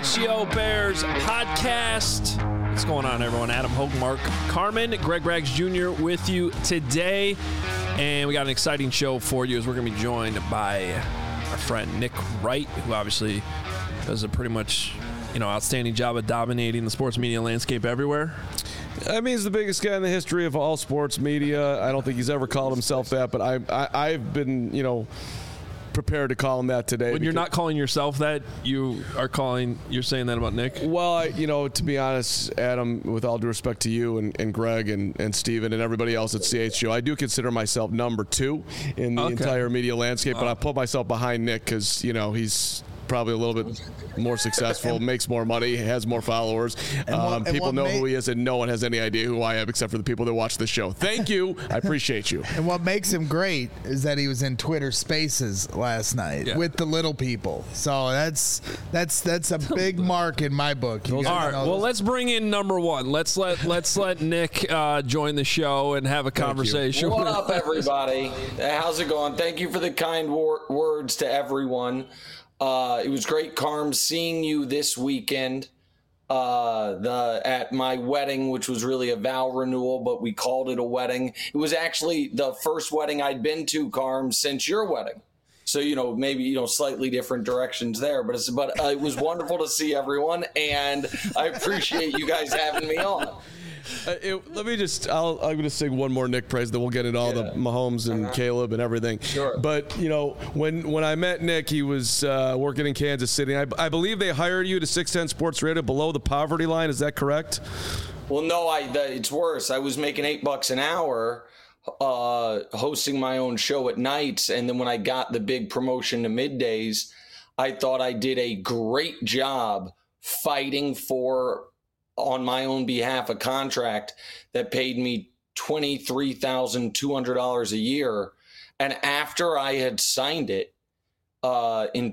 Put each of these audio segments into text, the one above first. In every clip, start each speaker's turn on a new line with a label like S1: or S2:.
S1: CHGO Bears podcast. What's going on, everyone? Adam Hogue, Mark Carman, Greg Rags Jr. with you today. And we got an exciting show for you as we're going to be joined by our friend Nick Wright, who obviously does a pretty much outstanding job at dominating the sports media landscape everywhere.
S2: I mean, he's the biggest guy in the history of all sports media. I don't think he's ever called himself that, but I've been, prepared to call him that today.
S1: When you're not calling yourself that, you're saying that about Nick?
S2: Well, to be honest, Adam, with all due respect to you and Greg and Steven and everybody else at CHGO, I do consider myself number 2 in the entire media landscape, but I put myself behind Nick because, he's probably a little bit more successful, makes more money, has more followers. People know who he is, and no one has any idea who I am except for the people that watch the show. Thank you. I appreciate you.
S3: And what makes him great is that he was in Twitter Spaces last night with the little people. So that's a big mark in my book.
S1: All right. Well, let's bring in number 1. Let's let Nick join the show and have a conversation.
S4: What up, everybody? How's it going? Thank you for the kind words to everyone. It was great, Carm, seeing you this weekend at my wedding, which was really a vow renewal, but we called it a wedding. It was actually the first wedding I'd been to, Carm, since your wedding. So, maybe, slightly different directions there, but it was wonderful to see everyone, and I appreciate you guys having me on.
S2: I'm going to sing one more Nick praise, then we'll get into all the Mahomes and Caleb and everything.
S4: Sure.
S2: But, when I met Nick, he was working in Kansas City. I believe they hired you to 610 Sports Radio below the poverty line. Is that correct?
S4: Well, no, it's worse. I was making $8 an hour hosting my own show at nights. And then when I got the big promotion to middays, I thought I did a great job fighting for, on my own behalf, a contract that paid me $23,200 a year. And after I had signed it in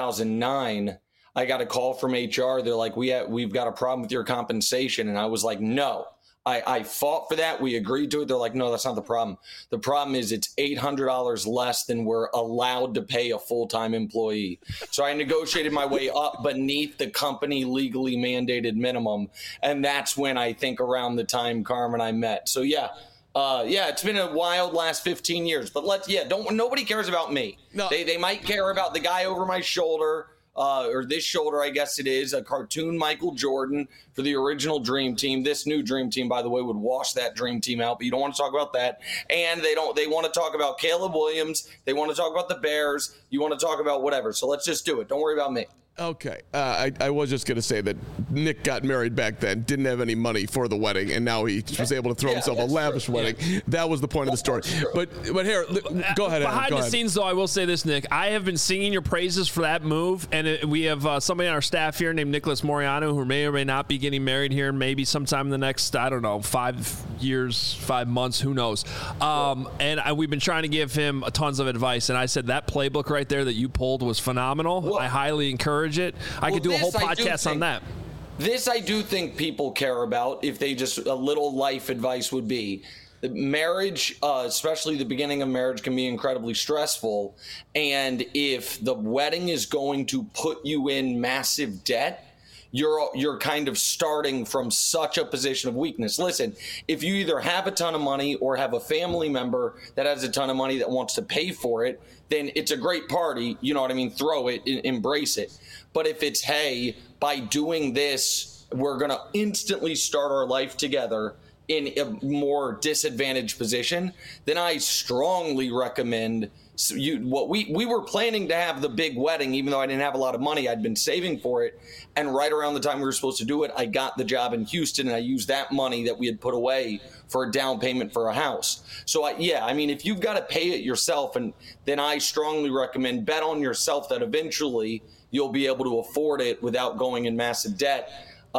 S4: 2009, I got a call from HR. They're like, we've got a problem with your compensation. And I was like, no. I fought for that. We agreed to it. They're like, no, that's not the problem. The problem is it's $800 less than we're allowed to pay a full-time employee. So I negotiated my way up beneath the company legally mandated minimum. And that's when I think around the time Carmen and I met. So it's been a wild last 15 years, but nobody cares about me. No. They might care about the guy over my shoulder. Or this shoulder, I guess it is, a cartoon Michael Jordan for the original Dream Team. This new Dream Team, by the way, would wash that Dream Team out, but you don't want to talk about that. And they want to talk about Caleb Williams. They want to talk about the Bears. You want to talk about whatever. So let's just do it. Don't worry about me.
S2: Okay. I was just going to say that Nick got married back then, didn't have any money for the wedding, and now he was able to throw himself a lavish wedding. Yeah. That was the point of the story. But here, go ahead, Adam.
S1: Behind the scenes, though, I will say this, Nick. I have been singing your praises for that move, and we have somebody on our staff here named Nicholas Moriano who may or may not be getting married here maybe sometime in the next, 5 years, 5 months, who knows. And we've been trying to give him tons of advice, and I said that playbook right there that you pulled was phenomenal. Well, I highly encourage it. I could do a whole podcast on that.
S4: This I do think people care about. If they just, a little life advice would be, the marriage, especially the beginning of marriage, can be incredibly stressful. And if the wedding is going to put you in massive debt, you're kind of starting from such a position of weakness. Listen, if you either have a ton of money or have a family member that has a ton of money that wants to pay for it, then it's a great party. You know what I mean? Throw it, embrace it. But if it's, hey, by doing this, we're going to instantly start our life together in a more disadvantaged position, then I strongly recommend we were planning to have the big wedding, even though I didn't have a lot of money. I'd been saving for it. And right around the time we were supposed to do it, I got the job in Houston, and I used that money that we had put away for a down payment for a house. So, if you've got to pay it yourself, and then I strongly recommend bet on yourself that eventually you'll be able to afford it without going in massive debt.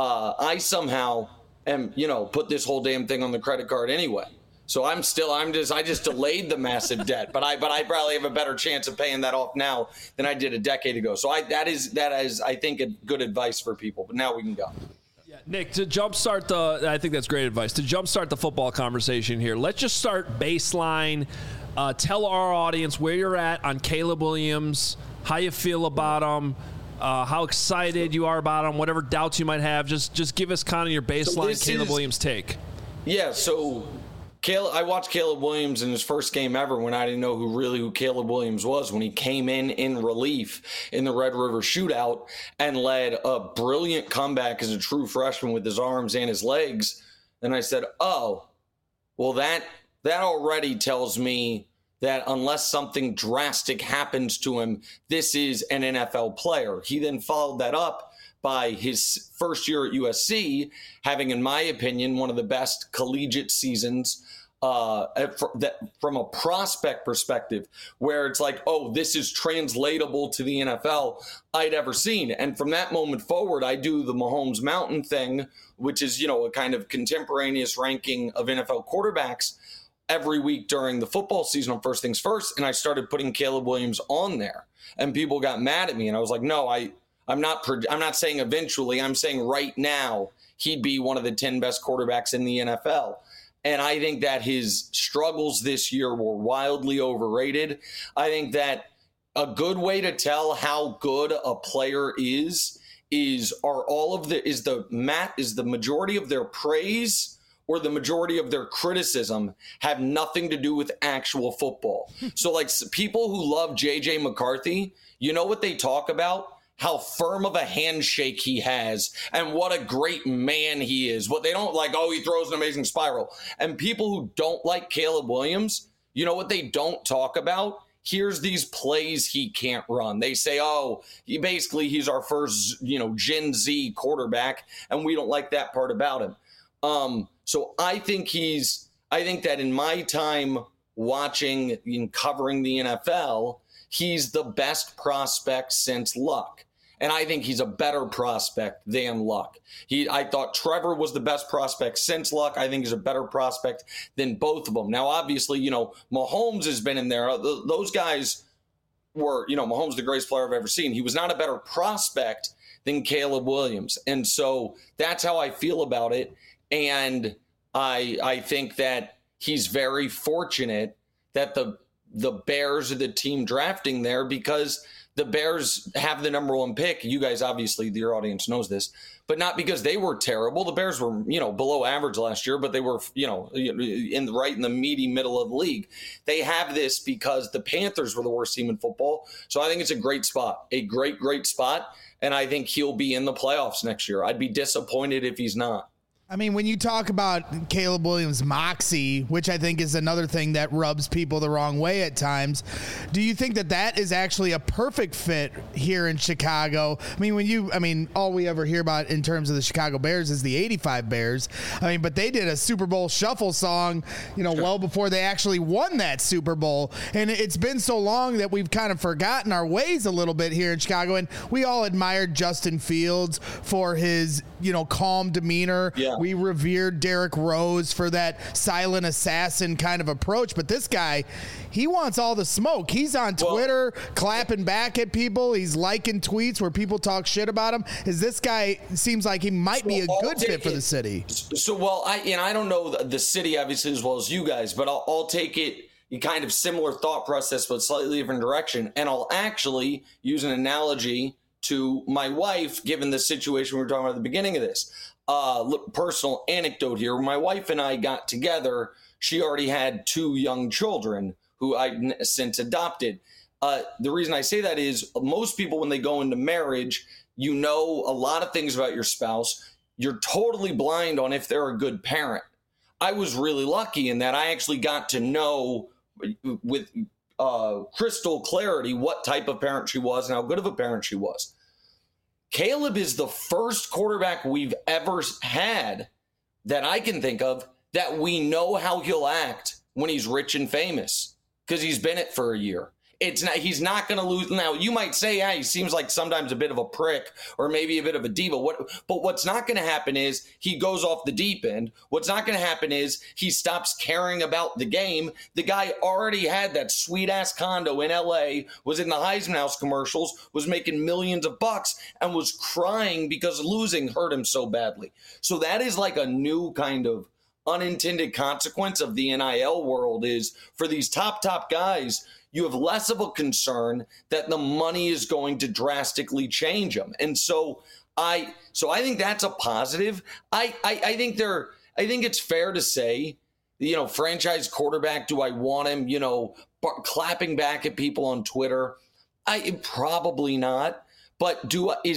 S4: I somehow put this whole damn thing on the credit card anyway. So I just delayed the massive debt, but I probably have a better chance of paying that off now than I did a decade ago. So that is I think a good advice for people. But now we can go.
S1: Yeah, Nick, to jumpstart I think that's great advice. To jumpstart the football conversation here, let's just start baseline. Tell our audience where you're at on Caleb Williams, how you feel about him. how excited you are about him, whatever doubts you might have. Just give us kind of your baseline Caleb Williams take.
S4: Yeah, so I watched Caleb Williams in his first game ever when I didn't know who Caleb Williams was, when he came in relief in the Red River Shootout and led a brilliant comeback as a true freshman with his arms and his legs. And I said, oh, well, that already tells me that unless something drastic happens to him, this is an NFL player. He then followed that up by his first year at USC, having, in my opinion, one of the best collegiate seasons from a prospect perspective, where it's like, oh, this is translatable to the NFL, I'd ever seen. And from that moment forward, I do the Mahomes Mountain thing, which is, a kind of contemporaneous ranking of NFL quarterbacks every week during the football season on First Things First. And I started putting Caleb Williams on there, and people got mad at me. And I was like, no, I'm not saying eventually. I'm saying right now he'd be one of the 10 best quarterbacks in the NFL. And I think that his struggles this year were wildly overrated. I think that a good way to tell how good a player is the majority of their praise or the majority of their criticism have nothing to do with actual football. So like people who love JJ McCarthy, you know what they talk about? How firm of a handshake he has and what a great man he is. What they don't like, oh, he throws an amazing spiral. And people who don't like Caleb Williams, you know what they don't talk about? Here's these plays he can't run. They say, oh, he's our first, Gen Z quarterback, and we don't like that part about him. So I think that in my time watching and covering the NFL, he's the best prospect since Luck. And I think he's a better prospect than Luck. I thought Trevor was the best prospect since Luck. I think he's a better prospect than both of them. Now, obviously, Mahomes has been in there. Those guys were, Mahomes the greatest player I've ever seen. He was not a better prospect than Caleb Williams. And so that's how I feel about it. And I think that he's very fortunate that the Bears are the team drafting there, because the Bears have the number one pick. You guys, obviously, your audience knows this, but not because they were terrible. The Bears were, below average last year, but they were, right in the meaty middle of the league. They have this because the Panthers were the worst team in football. So I think it's a great spot, a great, great spot. And I think he'll be in the playoffs next year. I'd be disappointed if he's not.
S3: I mean, when you talk about Caleb Williams' moxie, which I think is another thing that rubs people the wrong way at times, do you think that is actually a perfect fit here in Chicago? I mean, all we ever hear about in terms of the Chicago Bears is the 85 Bears. I mean, but they did a Super Bowl shuffle song, well before they actually won that Super Bowl. And it's been so long that we've kind of forgotten our ways a little bit here in Chicago. And we all admired Justin Fields for his, calm demeanor. Yeah. We revered Derrick Rose for that silent assassin kind of approach. But this guy, he wants all the smoke. He's on Twitter clapping back at people. He's liking tweets where people talk shit about him. This guy seems like he might be a good fit for the city.
S4: So, I don't know the city obviously as well as you guys, but I'll take it kind of similar thought process, but slightly different direction. And I'll actually use an analogy to my wife, given the situation we were talking about at the beginning of this. Personal anecdote here. When my wife and I got together, she already had 2 young children who I since adopted. The reason I say that is most people, when they go into marriage, a lot of things about your spouse. You're totally blind on if they're a good parent. I was really lucky in that I actually got to know with crystal clarity what type of parent she was and how good of a parent she was. Caleb is the first quarterback we've ever had that I can think of that we know how he'll act when he's rich and famous, because he's been it for a year. He's not going to lose. Now, you might say, he seems like sometimes a bit of a prick or maybe a bit of a diva. But what's not going to happen is he goes off the deep end. What's not going to happen is he stops caring about the game. The guy already had that sweet-ass condo in L.A., was in the Heisman House commercials, was making millions of bucks, and was crying because losing hurt him so badly. So that is like a new kind of unintended consequence of the NIL world is for these top guys, you have less of a concern that the money is going to drastically change them. And so I think that's a positive. I think it's fair to say, franchise quarterback, do I want him, clapping back at people on Twitter? Probably not. But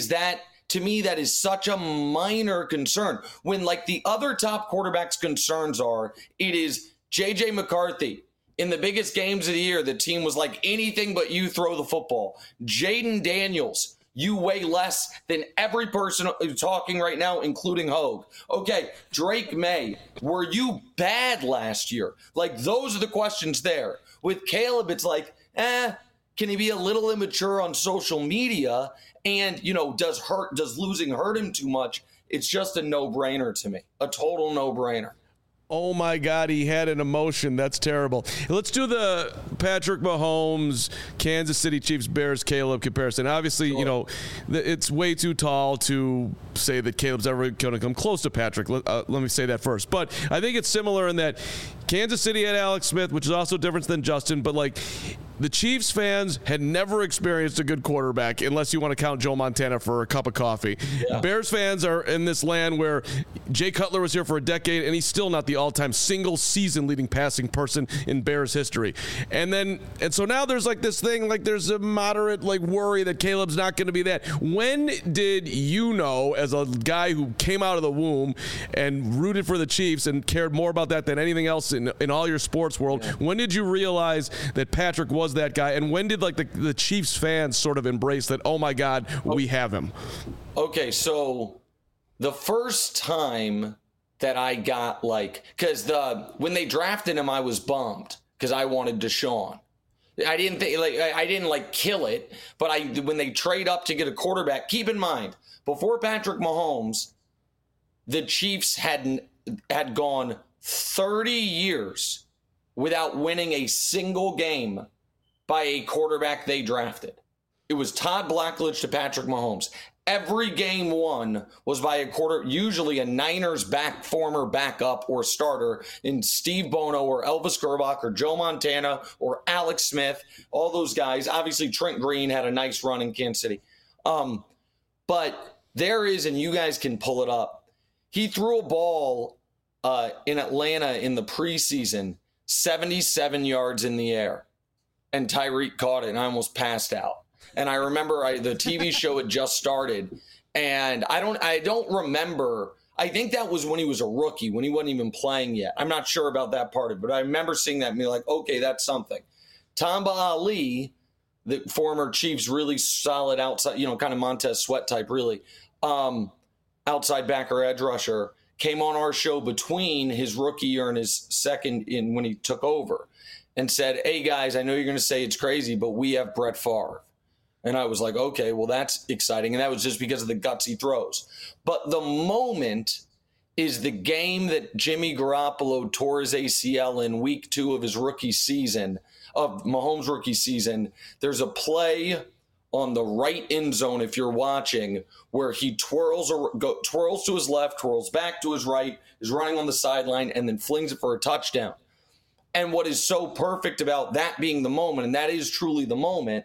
S4: to me, that is such a minor concern when like the other top quarterbacks' concerns are, it is JJ McCarthy. In the biggest games of the year, the team was like, anything but you throw the football. Jaden Daniels, you weigh less than every person talking right now, including Hogue. Okay, Drake May, were you bad last year? Like, those are the questions there. With Caleb, it's like, can he be a little immature on social media? And, does losing hurt him too much? It's just a no-brainer to me, a total no-brainer.
S2: Oh, my God, he had an emotion. That's terrible. Let's do the Patrick Mahomes, Kansas City Chiefs, Bears, Caleb comparison. Obviously, sure. It's way too tall to say that Caleb's ever going to come close to Patrick. Let me say that first. But I think it's similar in that Kansas City had Alex Smith, which is also different than Justin. But, the Chiefs fans had never experienced a good quarterback unless you want to count Joe Montana for a cup of coffee. Yeah. Bears fans are in this land where Jay Cutler was here for a decade, and he's still not the all-time single season leading passing person in Bears history. And so now there's this thing, there's a moderate worry that Caleb's not going to be that. When did as a guy who came out of the womb and rooted for the Chiefs and cared more about that than anything else in all your sports world, when did you realize that Patrick was that guy, and when did the Chiefs fans sort of embrace that, oh my God, we have him? Okay,
S4: so the first time that I got because when they drafted him, I was bummed because I wanted Deshaun. I didn't think I didn't kill it, but when they trade up to get a quarterback, keep in mind, before Patrick Mahomes, the Chiefs had gone 30 years without winning a single game by a quarterback they drafted. It was Todd Blackledge to Patrick Mahomes. Every game won was by usually a Niners former backup or starter in Steve Bono or Elvis Gerbach or Joe Montana or Alex Smith, all those guys. Obviously, Trent Green had a nice run in Kansas City. But there is, and you guys can pull it up, he threw a ball in Atlanta in the preseason, 77 yards in the air. And Tyreek caught it, and I almost passed out. And I remember the TV show had just started, and I don't remember. I think that was when he was a rookie, when he wasn't even playing yet. I'm not sure about that part of it, but I remember seeing that and being like, okay, that's something. Tamba Ali, the former Chiefs, really solid outside, kind of Montez Sweat type, really, outside backer, edge rusher, came on our show between his rookie year and his second when he took over, and said, hey, guys, I know you're going to say it's crazy, but we have Brett Favre. And I was like, okay, well, that's exciting. And that was just because of the guts he throws. But the moment is the game that Jimmy Garoppolo tore his ACL in week 2 of his rookie season, of Mahomes' rookie season. There's a play on the right end zone, if you're watching, where he twirls to his left, twirls back to his right, is running on the sideline, and then flings it for a touchdown. And what is so perfect about that being the moment, and that is truly the moment,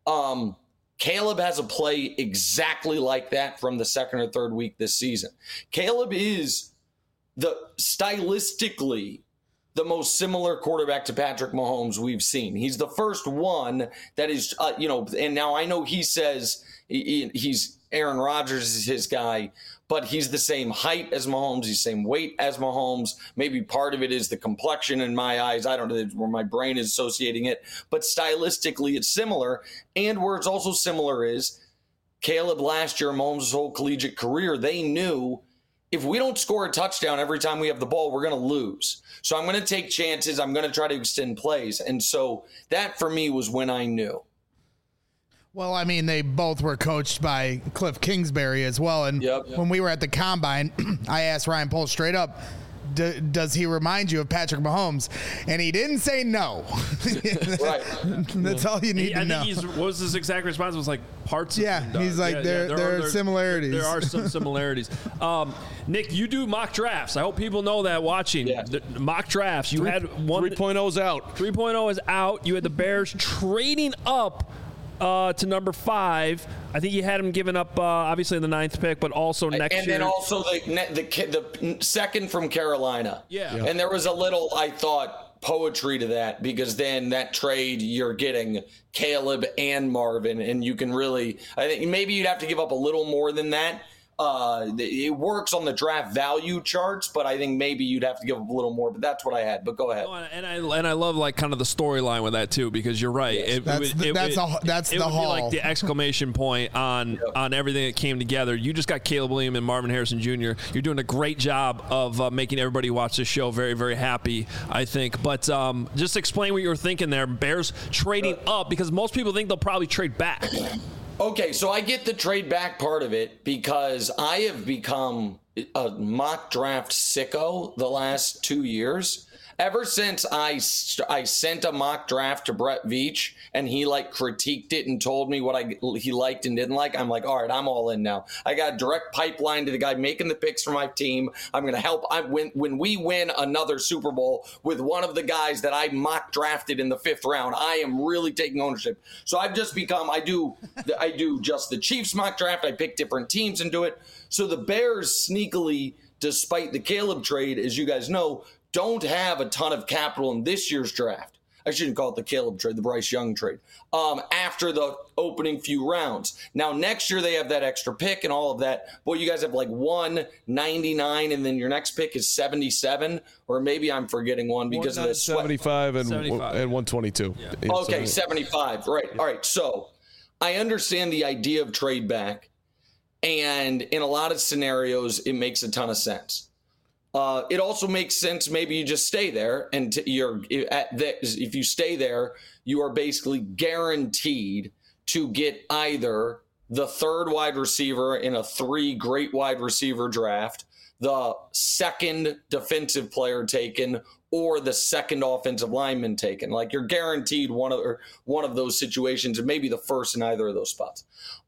S4: Caleb has a play exactly like that from the second or third week this season. Caleb is stylistically the most similar quarterback to Patrick Mahomes we've seen. He's the first one that is, and now I know he says he's Aaron Rodgers is his guy, but he's the same height as Mahomes. He's the same weight as Mahomes. Maybe part of it is the complexion in my eyes. I don't know where my brain is associating it, but stylistically it's similar. And where it's also similar is Caleb last year, Mahomes' whole collegiate career, they knew if we don't score a touchdown every time we have the ball, we're going to lose. So I'm going to take chances. I'm going to try to extend plays. And so that for me was when I knew.
S3: Well, I mean, they both were coached by Cliff Kingsbury as well. And when we were at the Combine, I asked Ryan Poles straight up, does he remind you of Patrick Mahomes? And he didn't say no.
S4: Right.
S3: That's all you need to know.
S1: What was his exact response? It was like parts.
S3: Yeah, he's like, there are similarities.
S1: There are some similarities. Nick, you do mock drafts. I hope people know that watching.
S4: Yeah.
S1: The mock drafts. You had one.
S2: 3.0's out.
S1: 3.0 is out. You had the Bears trading up to number 5. I think you had him giving up, obviously, the 9th pick, but also next year.
S4: And then also the second from Carolina.
S1: Yeah.
S4: And there was a little, I thought, poetry to that, because then that trade, you're getting Caleb and Marvin, and you can really, I think maybe you'd have to give up a little more than that. It works on the draft value charts, but I think maybe you'd have to give up a little more. But that's what I had. But go ahead.
S1: No, and I love like kind of the storyline with that too, because you're right.
S3: Yes. That's the haul.
S1: Be like the exclamation point on everything that came together. You just got Caleb Williams and Marvin Harrison Jr. You're doing a great job of making everybody watch this show very, very happy, I think. But just explain what you were thinking there. Bears trading up, because most people think they'll probably trade back.
S4: Okay, so I get the trade back part of it because I have become a mock draft sicko the last 2 years. Ever since I sent a mock draft to Brett Veach and he like critiqued it and told me what he liked and didn't like, I'm like, all right, I'm all in now. I got a direct pipeline to the guy making the picks for my team. I'm going to help. When we win another Super Bowl with one of the guys that I mock drafted in the 5th round, I am really taking ownership. So I've just become, I do just the Chiefs mock draft. I pick different teams and do it. So the Bears sneakily, despite the Caleb trade, as you guys know, don't have a ton of capital in this year's draft. I shouldn't call it the Caleb trade, the Bryce Young trade, after the opening few rounds. Now, next year they have that extra pick and all of that. Boy, you guys have like 199, and then your next pick is 77, or maybe I'm forgetting one because of the
S2: 75 and 122.
S1: Yeah.
S4: Okay, 75. Right. All right. So I understand the idea of trade back, and in a lot of scenarios, it makes a ton of sense. It also makes sense. Maybe you just stay there, and if you stay there, you are basically guaranteed to get either the 3rd wide receiver in a 3 great wide receiver draft, the 2nd defensive player taken, or the 2nd offensive lineman taken. Like, you're guaranteed one of those situations, and maybe the 1st in either of those spots.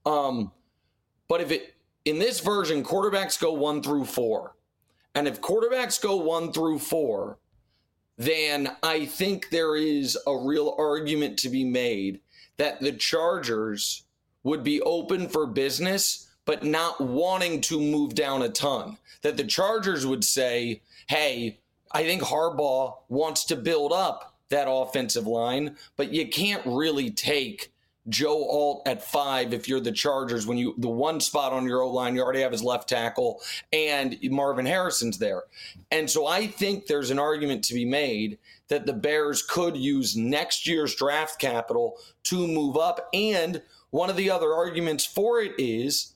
S4: But in this version, quarterbacks go 1 through 4. And if quarterbacks go 1 through 4, then I think there is a real argument to be made that the Chargers would be open for business, but not wanting to move down a ton. That the Chargers would say, hey, I think Harbaugh wants to build up that offensive line, but you can't really take Joe Alt at 5 if you're the Chargers, when the one spot on your O-line, you already have his left tackle and Marvin Harrison's there. And so I think there's an argument to be made that the Bears could use next year's draft capital to move up. And one of the other arguments for it is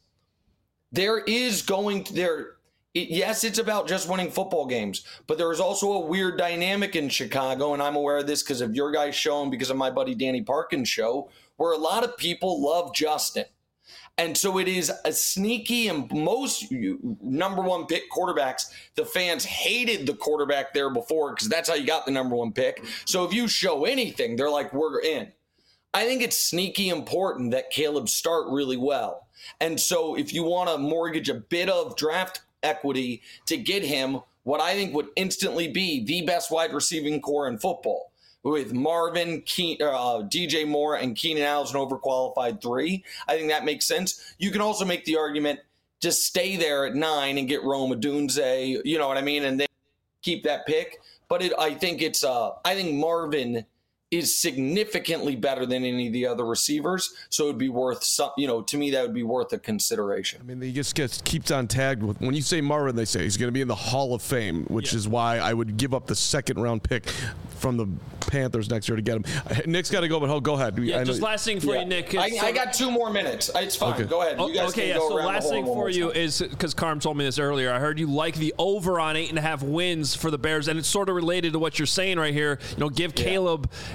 S4: yes, it's about just winning football games, but there is also a weird dynamic in Chicago, and I'm aware of this because of your guys' show and because of my buddy Danny Parkin's show, where a lot of people love Justin. And so it is a sneaky, and most number 1 pick quarterbacks, the fans hated the quarterback there before because that's how you got the number 1 pick. So if you show anything, they're like, we're in. I think it's sneaky important that Caleb start really well. And so if you want to mortgage a bit of draft equity to get him what I think would instantly be the best wide receiving core in football, with Marvin, DJ Moore, and Keenan Allen as an overqualified 3. I think that makes sense. You can also make the argument, just stay there at 9 and get Rome Odunze, you know what I mean, and then keep that pick. But I think Marvin is significantly better than any of the other receivers, so it would be worth to me that would be worth a consideration.
S2: I mean, he just keeps on tagged with, when you say Marvin, they say he's going to be in the Hall of Fame, which is why I would give up the 2nd round pick from the Panthers next year to get him. Nick's got to go, but go ahead.
S1: Yeah, just last thing for you, Nick.
S4: I got 2 more minutes. It's fine. Okay. Go ahead. You guys can go
S1: so
S4: around
S1: last
S4: the
S1: thing for you is, because Carm told me this earlier, I heard you like the over on 8.5 wins for the Bears, and it's sort of related to what you're saying right here. Give Caleb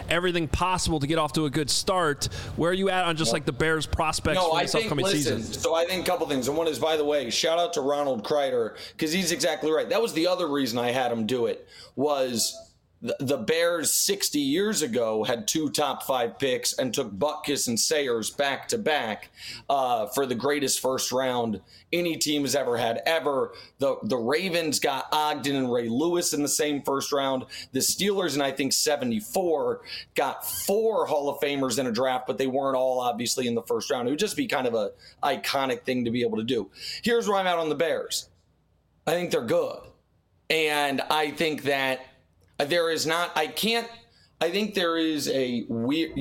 S1: everything possible to get off to a good start. Where are you at on just like the Bears' prospects for this upcoming season?
S4: So I think a couple things. And one is, by the way, shout out to Ronald Kreider, because he's exactly right. That was the other reason I had him do it, was the Bears 60 years ago had 2 top 5 picks and took Butkus and Sayers back to back for the greatest first round any team has ever had ever. The Ravens got Ogden and Ray Lewis in the same first round. The Steelers in, I think, 74 got 4 Hall of Famers in a draft, but they weren't all obviously in the first round. It would just be kind of a iconic thing to be able to do. Here's where I'm at on the Bears. I think they're good. And I think that there is not, I think there is a weird,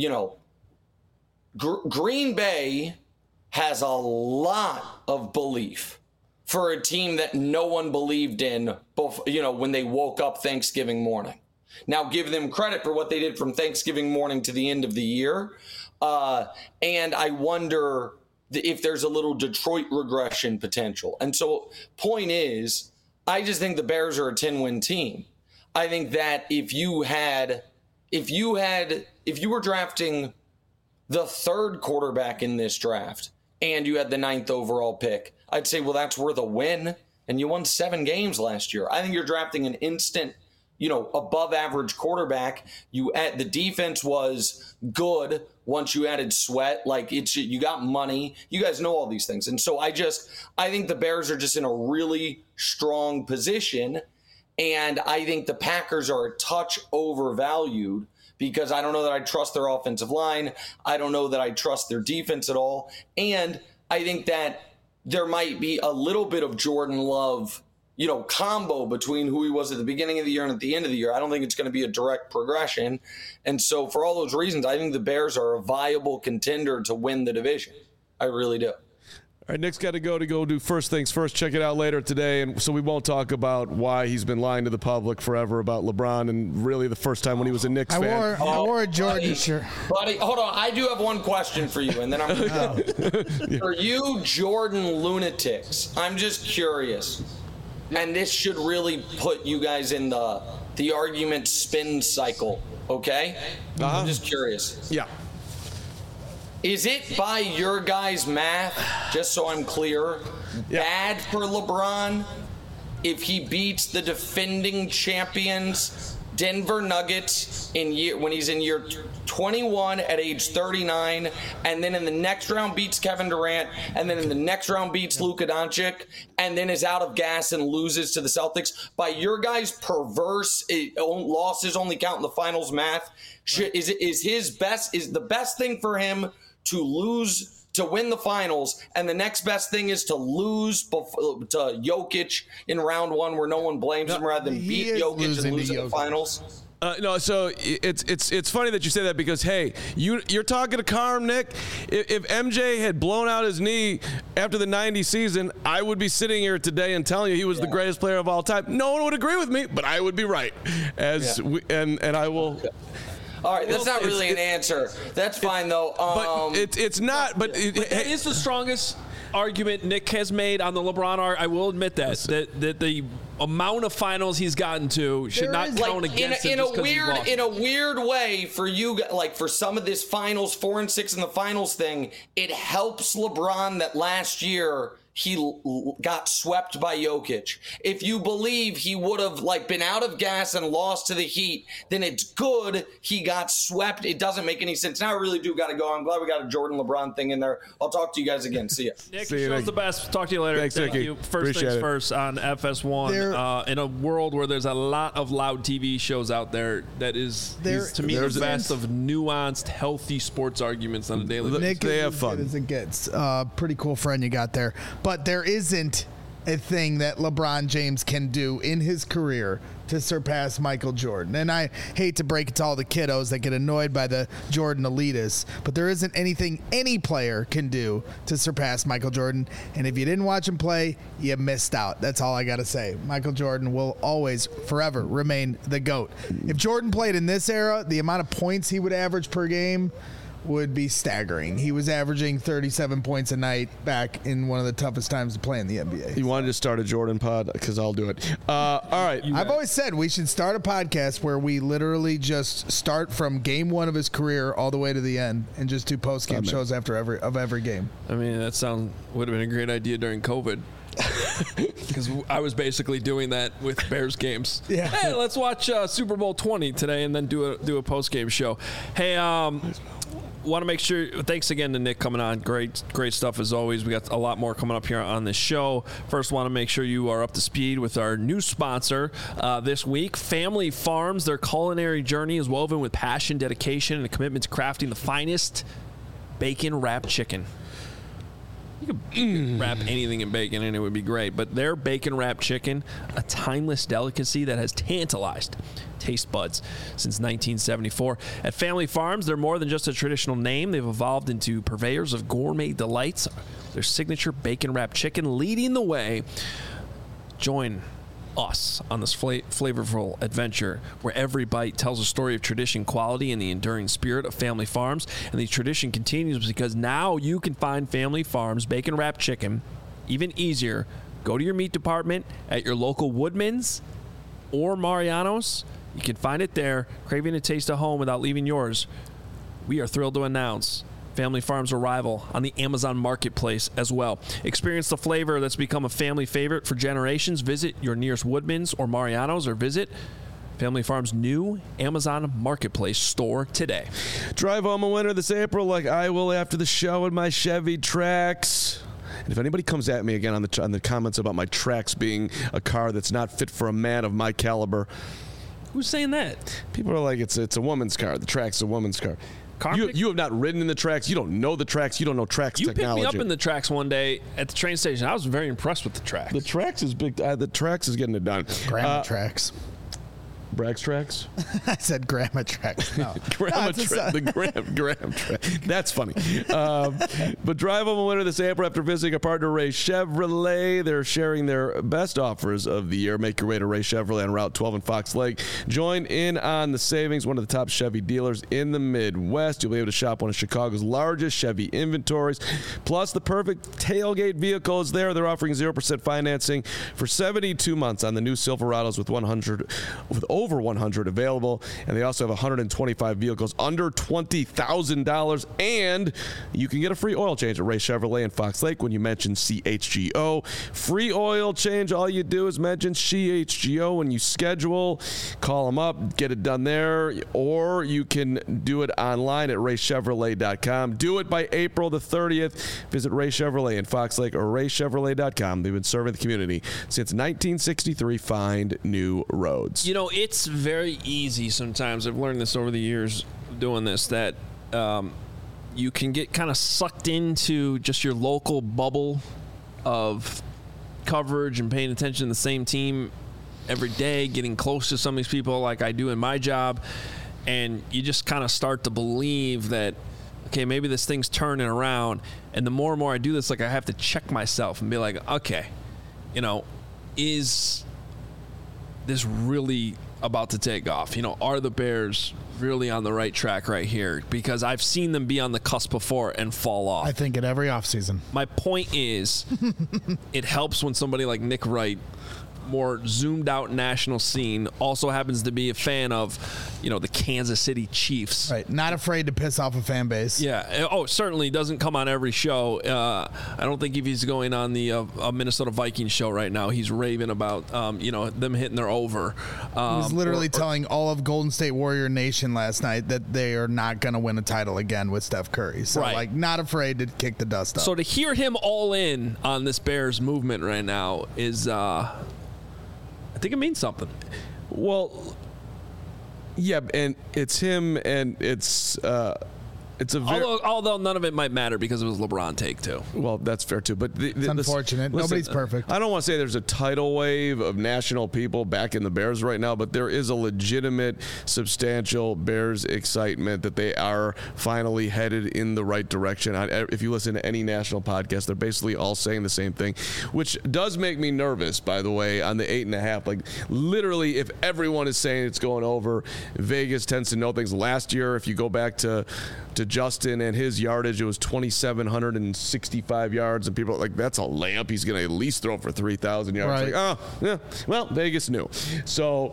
S4: Green Bay has a lot of belief for a team that no one believed in, when they woke up Thanksgiving morning. Now, give them credit for what they did from Thanksgiving morning to the end of the year. And I wonder if there's a little Detroit regression potential. And so, point is, I just think the Bears are a 10-win team. I think that if you were drafting the 3rd quarterback in this draft and you had the 9th overall pick, I'd say, well, that's worth a win. And you won 7 games last year. I think you're drafting an instant, above average quarterback. The defense was good once you added Sweat. You got money. You guys know all these things. And so I think the Bears are just in a really strong position. And I think the Packers are a touch overvalued because I don't know that I trust their offensive line. I don't know that I trust their defense at all. And I think that there might be a little bit of Jordan Love, combo between who he was at the beginning of the year and at the end of the year. I don't think it's going to be a direct progression. And so for all those reasons, I think the Bears are a viable contender to win the division. I really do.
S2: All right, Nick's got to go do First Things First. Check it out later today, and so we won't talk about why he's been lying to the public forever about LeBron, and really the first time when he was a Knicks fan.
S3: I wore a Jordan shirt.
S4: Buddy, hold on. I do have one question for you, and then I'm going to go. For you Jordan lunatics, I'm just curious, and this should really put you guys in the argument spin cycle, okay? I'm just curious.
S2: Yeah.
S4: Is it by your guys' math, just so I'm clear, bad for LeBron if he beats the defending champions Denver Nuggets when he's in year 21 at age 39, and then in the next round beats Kevin Durant, and then in the next round beats Luka Doncic, and then is out of gas and loses to the Celtics? By your guys' perverse losses only count in the finals math, is the best thing for him to win the finals, and the next best thing is to lose to Jokic in round 1 where no one blames him, rather than beat Jokic and lose in the finals?
S2: No, so it's funny that you say that because, hey, you're talking to Carm, Nick. If MJ had blown out his knee after the 90 season, I would be sitting here today and telling you he was the greatest player of all time. No one would agree with me, but I would be right. And I will... Okay.
S4: All right, that's not really an answer. That's fine, though.
S2: But it's not. But it
S1: is the strongest argument Nick has made on the LeBron art. I will admit that the amount of finals he's gotten to should not count against him just because he lost.
S4: In a weird way, for you, for some of this finals 4 and 6 in the finals thing, it helps LeBron that last year he got swept by Jokic. If you believe he would have been out of gas and lost to the Heat, then it's good he got swept. It doesn't make any sense. Now I really do got to go. I'm glad we got a Jordan LeBron thing in there. I'll talk to you guys again. See ya.
S1: Nick, show's the best. Talk to you later.
S2: Thanks,
S1: Thank
S2: Nicky.
S1: you. First
S2: Appreciate
S1: things first on FS1. In a world where there's a lot of loud TV shows out there, that is to me the best of nuanced, healthy sports arguments on a daily basis.
S3: Nick,
S2: they have fun.
S3: As it gets. Pretty cool friend you got there. But there isn't a thing that LeBron James can do in his career to surpass Michael Jordan. And I hate to break it to all the kiddos that get annoyed by the Jordan elitists, but there isn't anything any player can do to surpass Michael Jordan. And if you didn't watch him play, you missed out. That's all I got to say. Michael Jordan will always, forever remain the GOAT. If Jordan played in this era, the amount of points he would average per game would be staggering. He was averaging 37 points a night back in one of the toughest times to play in the NBA.
S2: You wanted to start a Jordan pod? Because I'll do it. All right.
S3: I've always said we should start a podcast where we literally just start from game one of his career all the way to the end and just do post-game shows after every game.
S1: I mean, that would have been a great idea during COVID. Because I was basically doing that with Bears games.
S3: Yeah.
S1: Hey, let's watch Super Bowl 20 today and then do a post-game show. Hey, want to make sure, thanks again to Nick coming on. Great stuff as always. We got a lot more coming up here on this show. First, want to make sure you are up to speed with our new sponsor this week, Family Farms. Their culinary journey is woven with passion, dedication, and a commitment to crafting the finest bacon-wrapped chicken. You could wrap anything in bacon and it would be great. But their bacon-wrapped chicken, a timeless delicacy that has tantalized taste buds since 1974. At Family Farms, they're more than just a traditional name. They've evolved into purveyors of gourmet delights. Their signature bacon-wrapped chicken leading the way. Join us on this flavorful adventure where every bite tells a story of tradition, quality, and the enduring spirit of Family Farms. And the tradition continues because now you can find Family Farms bacon wrapped chicken even easier. Go to your meat department at your local Woodman's or Mariano's. You can find it there. Craving a taste of home without leaving yours. We are thrilled to announce Family Farms' arrival on the Amazon Marketplace as well. Experience the flavor that's become a family favorite for generations. Visit your nearest Woodman's or Mariano's or visit Family Farms' new Amazon Marketplace store today.
S2: Drive home a winner this April like I will after the show in my Chevy Trax. And if anybody comes at me again on the comments about my Trax being a car that's not fit for a man of my caliber.
S1: Who's saying that?
S2: People are like, it's a woman's car. The Trax is a woman's car. You have not ridden in the Trax. You don't know the Trax. You don't know Trax technology.
S1: You picked me up in the Trax one day at the train station. I was very impressed with the Trax.
S2: The Trax is big. The Trax is getting it done.
S3: Grandma Trax.
S2: Bragg's Trax?
S3: I said Grandma Trax. No.
S2: Graham Trax. That's funny. But drive home a winner this April after visiting our partner, Ray Chevrolet. They're sharing their best offers of the year. Make your way to Ray Chevrolet on Route 12 in Fox Lake. Join in on the savings. One of the top Chevy dealers in the Midwest. You'll be able to shop one of Chicago's largest Chevy inventories. Plus, the perfect tailgate vehicle is there. They're offering 0% financing for 72 months on the new Silverados with over 100 available, and they also have 125 vehicles under $20,000, and you can get a free oil change at Ray Chevrolet in Fox Lake when you mention CHGO. Free oil change. All you do is mention CHGO when you schedule. Call them up, get it done there, or you can do it online at raychevrolet.com. Do it by April the 30th. Visit Ray Chevrolet in Fox Lake or raychevrolet.com. They've been serving the community since 1963. Find new roads.
S1: You know, it's very easy sometimes. I've learned this over the years doing this, that you can get kind of sucked into just your local bubble of coverage and paying attention to the same team every day, getting close to some of these people like I do in my job, and you just kind of start to believe that, okay, maybe this thing's turning around. And the more and more I do this, like, I have to check myself and be like, okay, you know, is this really about to take off? You know, are the Bears really on the right track right here? Because I've seen them be on the cusp before and fall off.
S3: I think at every offseason.
S1: My point is, it helps when somebody like Nick Wright, more zoomed out national scene, also happens to be a fan of, you know, the Kansas City Chiefs.
S3: Right. Not afraid to piss off a fan base.
S1: Yeah. Oh, certainly doesn't come on every show. I don't think if he's going on the Minnesota Vikings show right now, he's raving about, you know, them hitting their over.
S3: He was literally telling all of Golden State Warrior Nation last night that they are not going to win a title again with Steph Curry. So, like, not afraid to kick the dust up.
S1: So to hear him all in on this Bears movement right now is, I think it means something.
S2: Well, yeah, and it's him, and it's a very...
S1: Although none of it might matter because it was LeBron take too.
S2: Well, that's fair too, but
S3: it's unfortunate. Nobody's perfect.
S2: I don't want to say there's a tidal wave of national people back in the Bears right now, but there is a legitimate, substantial Bears excitement that they are finally headed in the right direction. If you listen to any national podcast, they're basically all saying the same thing, which does make me nervous, by the way, on the 8.5. Like, literally, if everyone is saying it's going over, Vegas tends to know things. Last year, if you go back to Justin and his yardage. It was 2,765 yards, and people are like, that's a lamp. He's going to at least throw for 3,000 yards.
S3: Right.
S2: Like, oh, yeah. Well, Vegas knew. So,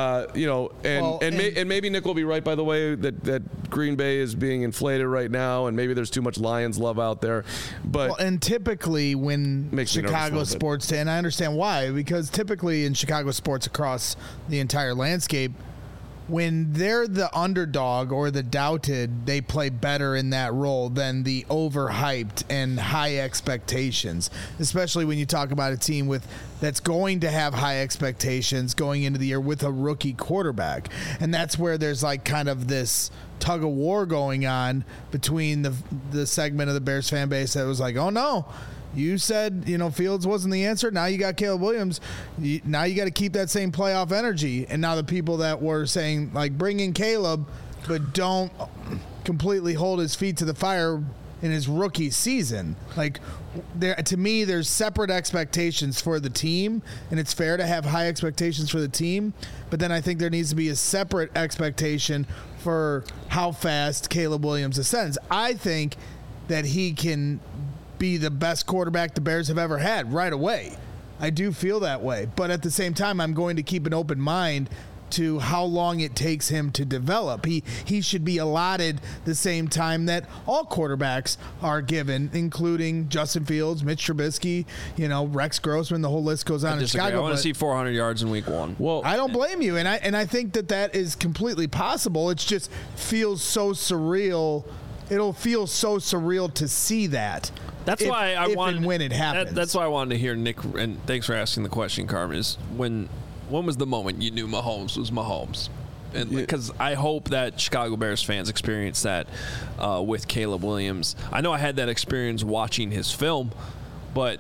S2: and maybe Nick will be right, by the way, that Green Bay is being inflated right now, and maybe there's too much Lions love out there. But
S3: and typically when Chicago sports, and I understand why, because typically in Chicago sports across the entire landscape, when they're the underdog or the doubted, they play better in that role than the overhyped and high expectations, especially when you talk about a team that's going to have high expectations going into the year with a rookie quarterback. And that's where there's like kind of this tug of war going on between the segment of the Bears fan base that was like, oh no, you said, Fields wasn't the answer. Now you got Caleb Williams. Now you got to keep that same playoff energy. And now the people that were saying, like, bring in Caleb, but don't completely hold his feet to the fire in his rookie season. Like, to me, there's separate expectations for the team, and it's fair to have high expectations for the team. But then I think there needs to be a separate expectation for how fast Caleb Williams ascends. I think that he can be the best quarterback the Bears have ever had right away. I do feel that way. But at the same time, I'm going to keep an open mind to how long it takes him to develop. He should be allotted the same time that all quarterbacks are given, including Justin Fields, Mitch Trubisky, Rex Grossman, the whole list goes on in Chicago.
S1: I want to see 400 yards in week 1.
S3: Well, I don't blame you, and I think that is completely possible. It just feels so surreal. It'll feel so surreal to see that.
S1: That's why I wanted
S3: when it happens.
S1: That's why I wanted to hear Nick. And thanks for asking the question, Carmen. Is when was the moment you knew Mahomes was Mahomes? And because I hope that Chicago Bears fans experience that with Caleb Williams. I know I had that experience watching his film, but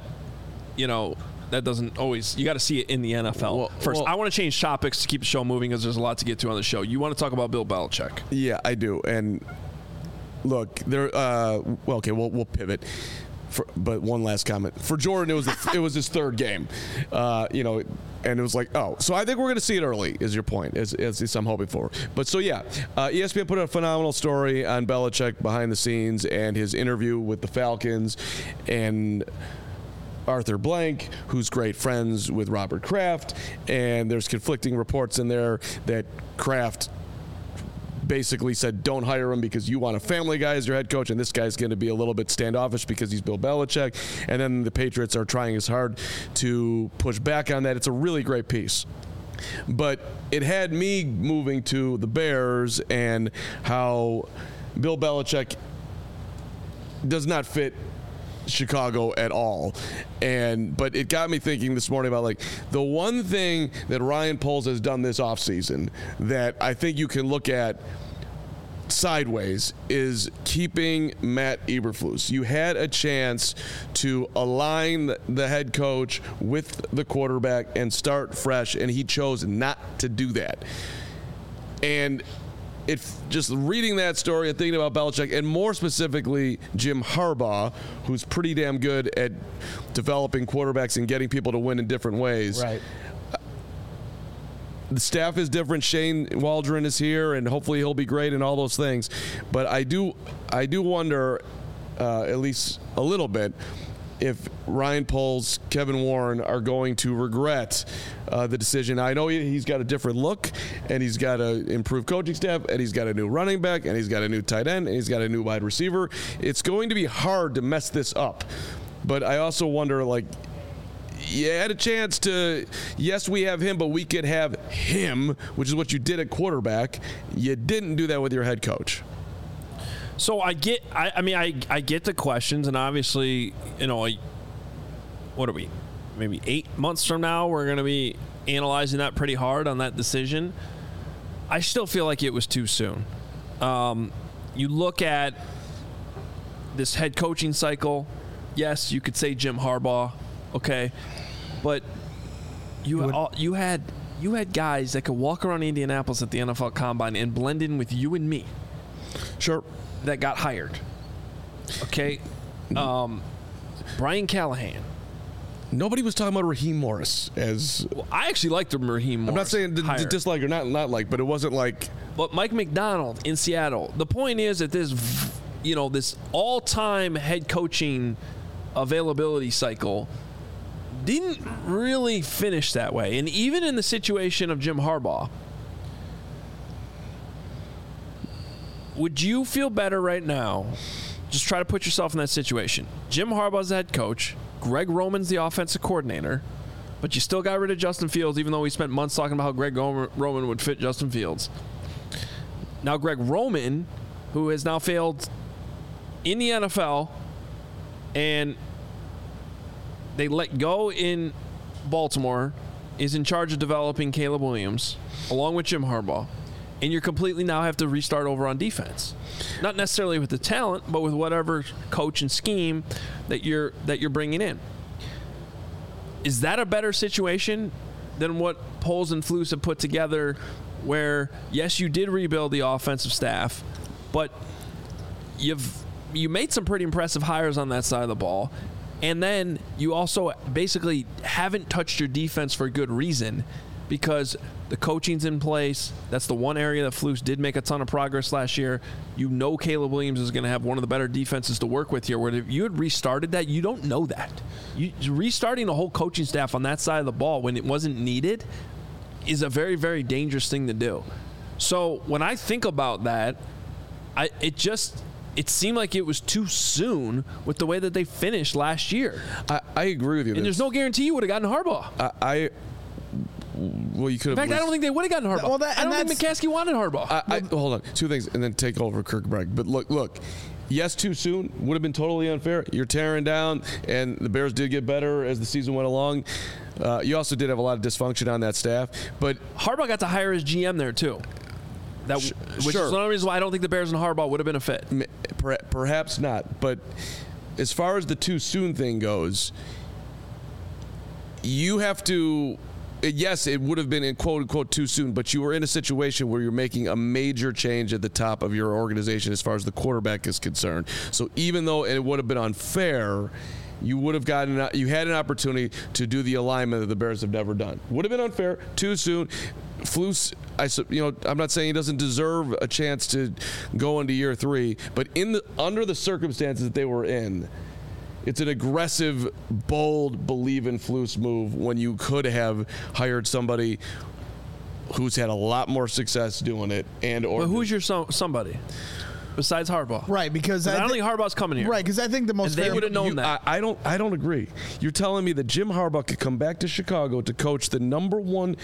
S1: that doesn't always. You got to see it in the NFL first. I want to change topics to keep the show moving because there's a lot to get to on the show. You want to talk about Bill Belichick?
S2: Yeah, I do. And look, there. Okay, we'll pivot. But one last comment for Jordan. It was his third game, and it was like, oh, so I think we're going to see it early. Is your point? As I'm hoping for. But so yeah, ESPN put out a phenomenal story on Belichick behind the scenes and his interview with the Falcons and Arthur Blank, who's great friends with Robert Kraft, and there's conflicting reports in there that Kraft basically said don't hire him because you want a family guy as your head coach, and this guy's going to be a little bit standoffish because he's Bill Belichick. And then the Patriots are trying as hard to push back on that. It's a really great piece. But it had me moving to the Bears and how Bill Belichick does not fit Chicago at all. But it got me thinking this morning about like the one thing that Ryan Poles has done this offseason that I think you can look at sideways is keeping Matt Eberflus. You had a chance to align the head coach with the quarterback and start fresh, and he chose not to do that. And it's just reading that story and thinking about Belichick, and more specifically Jim Harbaugh, who's pretty damn good at developing quarterbacks and getting people to win in different ways.
S3: Right.
S2: The staff is different. Shane Waldron is here, and hopefully he'll be great and all those things. But I do wonder, at least a little bit, if Ryan Poles, Kevin Warren are going to regret the decision. I know he's got a different look, and he's got an improved coaching staff, and he's got a new running back, and he's got a new tight end, and he's got a new wide receiver. It's going to be hard to mess this up. But I also wonder, like, you had a chance to, yes, we have him, but we could have him, which is what you did at quarterback. You didn't do that with your head coach.
S1: So I get the questions, and obviously, what are we? Maybe 8 months from now, we're going to be analyzing that pretty hard on that decision. I still feel like it was too soon. You look at this head coaching cycle. Yes, you could say Jim Harbaugh, okay, but you had guys that could walk around Indianapolis at the NFL Combine and blend in with you and me.
S2: Sure.
S1: That got hired. Okay. Brian Callahan.
S2: Nobody was talking about Raheem Morris as.
S1: Well, I actually liked the Raheem Morris.
S2: I'm not saying dislike or not like, but it wasn't like.
S1: But Mike McDonald in Seattle. The point is that this this all-time head coaching availability cycle didn't really finish that way. And even in the situation of Jim Harbaugh, would you feel better right now? Just try to put yourself in that situation. Jim Harbaugh's the head coach. Greg Roman's the offensive coordinator. But you still got rid of Justin Fields, even though we spent months talking about how Greg Roman would fit Justin Fields. Now Greg Roman, who has now failed in the NFL, and they let go in Baltimore, is in charge of developing Caleb Williams, along with Jim Harbaugh. And you completely now have to restart over on defense. Not necessarily with the talent, but with whatever coach and scheme that you're bringing in. Is that a better situation than what Poles and Flus have put together where, yes, you did rebuild the offensive staff, but you made some pretty impressive hires on that side of the ball, and then you also basically haven't touched your defense for good reason because the coaching's in place. That's the one area that Flus did make a ton of progress last year. Caleb Williams is going to have one of the better defenses to work with here, where if you had restarted that, you don't know that. Restarting the whole coaching staff on that side of the ball when it wasn't needed is a very, very dangerous thing to do. So when I think about that, it seemed like it was too soon with the way that they finished last year.
S2: I agree with you.
S1: And there's no guarantee you would have gotten Harbaugh.
S2: Well, you could have.
S1: In fact, I don't think they would have gotten Harbaugh. I don't think McCaskey wanted Harbaugh.
S2: Hold on. Two things, and then take over Kirk Bragg. But look. Yes, too soon would have been totally unfair. You're tearing down, and the Bears did get better as the season went along. You also did have a lot of dysfunction on that staff. But
S1: Harbaugh got to hire his GM there, too. Which is one of the reasons why I don't think the Bears and Harbaugh would have been a fit.
S2: Perhaps not. But as far as the too soon thing goes, you have to. Yes, it would have been in quote unquote too soon, but you were in a situation where you're making a major change at the top of your organization as far as the quarterback is concerned. So even though it would have been unfair, you had an opportunity to do the alignment that the Bears have never done. Would have been unfair, too soon. Flus, I'm not saying he doesn't deserve a chance to go into year 3, but under the circumstances that they were in, it's an aggressive, bold, believe-in-Flus move when you could have hired somebody who's had a lot more success doing it. But
S1: who's your somebody besides Harbaugh?
S3: Right, because
S1: I don't think Harbaugh's coming here.
S3: Right, because I think the most
S1: they would have known that.
S2: I don't agree. You're telling me that Jim Harbaugh could come back to Chicago to coach the number one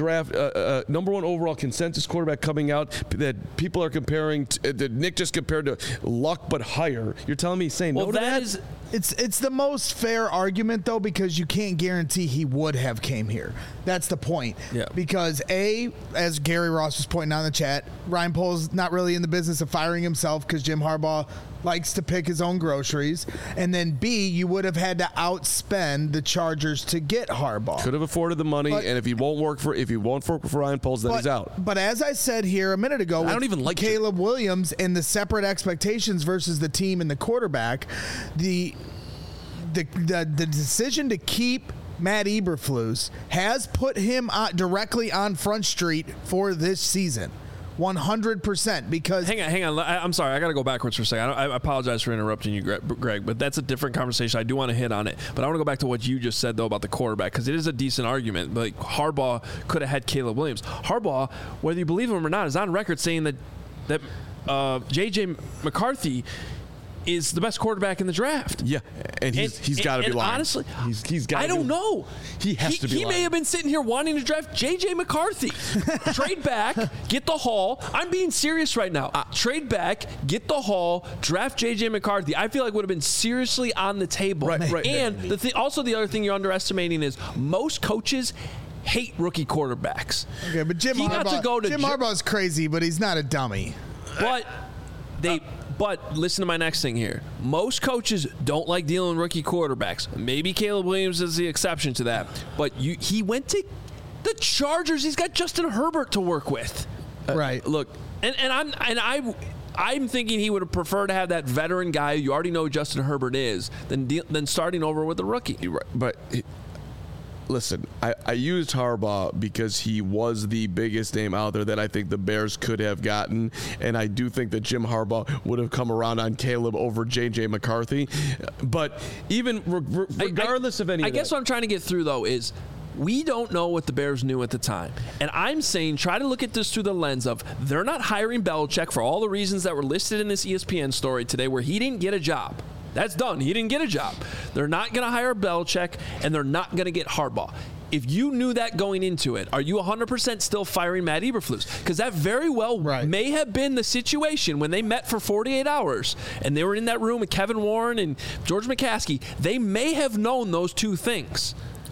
S2: overall consensus quarterback coming out that people are comparing that Nick just compared to Luck but higher. You're telling me he's saying no to that?
S3: It's the most fair argument, though, because you can't guarantee he would have came here. That's the point.
S1: Yeah.
S3: Because, as Gary Ross was pointing out in the chat, Ryan Poles not really in the business of firing himself because Jim Harbaugh likes to pick his own groceries. And then, B, you would have had to outspend the Chargers to get Harbaugh.
S2: Could have afforded the money, and if he won't work for Ryan Poles, then he's out.
S3: But as I said here a minute ago,
S1: I don't even like
S3: Caleb Williams and the separate expectations versus the team and the quarterback, the decision to keep Matt Eberflus has put him directly on Front Street for this season. 100%, because
S1: hang on. I'm sorry. I got to go backwards for a second. I apologize for interrupting you, Greg, but that's a different conversation. I do want to hit on it, but I want to go back to what you just said though about the quarterback, because it is a decent argument. Like Harbaugh could have had Caleb Williams. Harbaugh, whether you believe him or not, is on record saying that J.J. McCarthy is the best quarterback in the draft.
S2: Yeah, and he's got to be lying.
S1: Honestly,
S2: he's got.
S1: I don't know.
S2: He has to be.
S1: He may have been sitting here wanting to draft J.J. McCarthy. Trade back, get the haul. I'm being serious right now. Trade back, get the haul, draft J.J. McCarthy. I feel like would have been seriously on the table.
S2: Right.
S1: And the other thing you're underestimating is most coaches hate rookie quarterbacks.
S3: Okay, but Jim Harbaugh's crazy, but he's not a dummy.
S1: But listen to my next thing here. Most coaches don't like dealing with rookie quarterbacks. Maybe Caleb Williams is the exception to that. But he went to the Chargers. He's got Justin Herbert to work with.
S3: Right.
S1: Look, I'm thinking he would have preferred to have that veteran guy you already know who Justin Herbert is than starting over with a rookie.
S2: But listen, I used Harbaugh because he was the biggest name out there that I think the Bears could have gotten, and I do think that Jim Harbaugh would have come around on Caleb over J.J. McCarthy. But even regardless of any
S1: I
S2: of
S1: guess
S2: that,
S1: what I'm trying to get through, though, is we don't know what the Bears knew at the time. And I'm saying try to look at this through the lens of they're not hiring Belichick for all the reasons that were listed in this ESPN story today where he didn't get a job. That's done. He didn't get a job. They're not going to hire Belichick, and they're not going to get Harbaugh. If you knew that going into it, are you 100% still firing Matt Eberflus? Because that very well may have been the situation when they met for 48 hours and they were in that room with Kevin Warren and George McCaskey. They may have known those two things.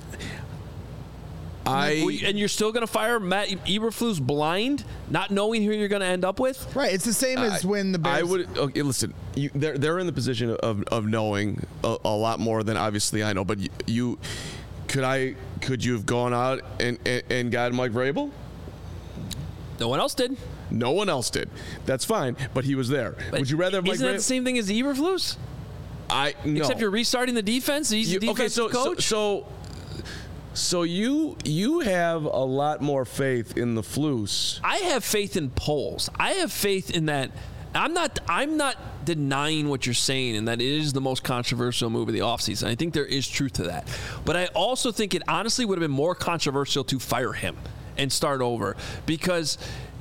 S1: And you're still going to fire Matt Eberflus blind, not knowing who you're going to end up with?
S3: Right. It's the same as when the Bears...
S2: listen, they're in the position of knowing a lot more than obviously I know, but could you have gone out and gotten Mike Vrabel?
S1: No one else did.
S2: No one else did. That's fine, but he was there.
S1: But
S2: would you rather have Mike Vrabel?
S1: Isn't that the same thing as Eberflus?
S2: No.
S1: Except you're restarting the defense. He's the defensive coach.
S2: So you have a lot more faith in the Flus.
S1: I have faith in polls. I have faith in that. I'm not denying what you're saying and that it is the most controversial move of the offseason. I think there is truth to that. But I also think it honestly would have been more controversial to fire him and start over. Because,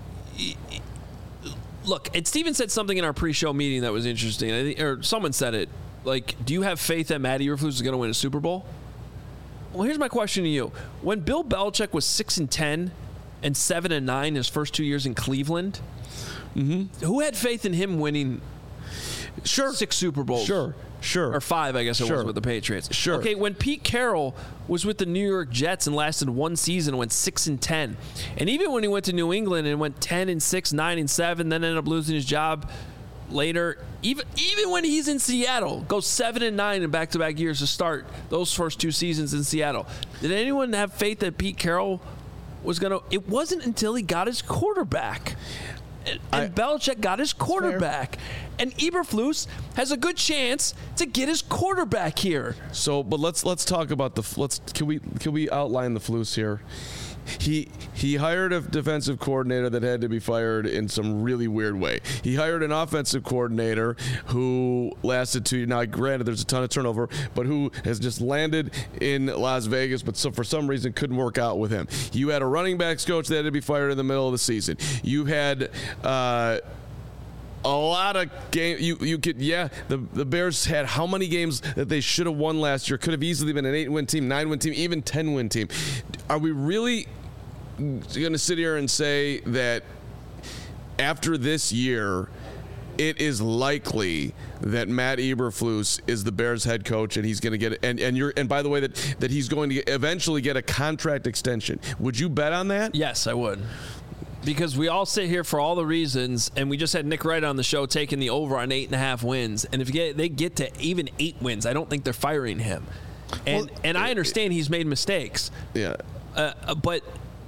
S1: look, and Steven said something in our pre-show meeting that was interesting. I think, or someone said it. Like, do you have faith that Matt Eberflus is going to win a Super Bowl? Well, here's my question to you. When Bill Belichick was 6-10 and 7-9 his first 2 years in Cleveland, who had faith in him winning 6 Super Bowls?
S2: Sure.
S1: Or 5, I guess it was with the Patriots.
S2: Sure.
S1: Okay, when Pete Carroll was with the New York Jets and lasted one season and went 6-10, and even when he went to New England and went 10-6, 9-7, then ended up losing his job later, even when he's in Seattle, goes 7-9 in back-to-back years to start those first 2 seasons in Seattle. Did anyone have faith that Pete Carroll was going to? It wasn't until he got his quarterback. And Belichick got his quarterback. And Eberflus has a good chance to get his quarterback here.
S2: So, but let's talk about can we outline the Flus here? He hired a defensive coordinator that had to be fired in some really weird way. He hired an offensive coordinator who lasted 2 years. Now, granted, there's a ton of turnover, but who has just landed in Las Vegas, but for some reason couldn't work out with him. You had a running backs coach that had to be fired in the middle of the season. You had a lot of games. The Bears had how many games that they should have won last year? Could have easily been an 8-win team, 9-win team, even 10-win team. Are we really going to sit here and say that after this year, it is likely that Matt Eberflus is the Bears head coach and he's going to get and by the way that he's going to eventually get a contract extension? Would you bet on that?
S1: Yes, I would. Because we all sit here for all the reasons, and we just had Nick Wright on the show taking the over on 8.5 wins. And if they get to even 8 wins, I don't think they're firing him. And I understand he's made mistakes.
S2: Yeah.
S1: But,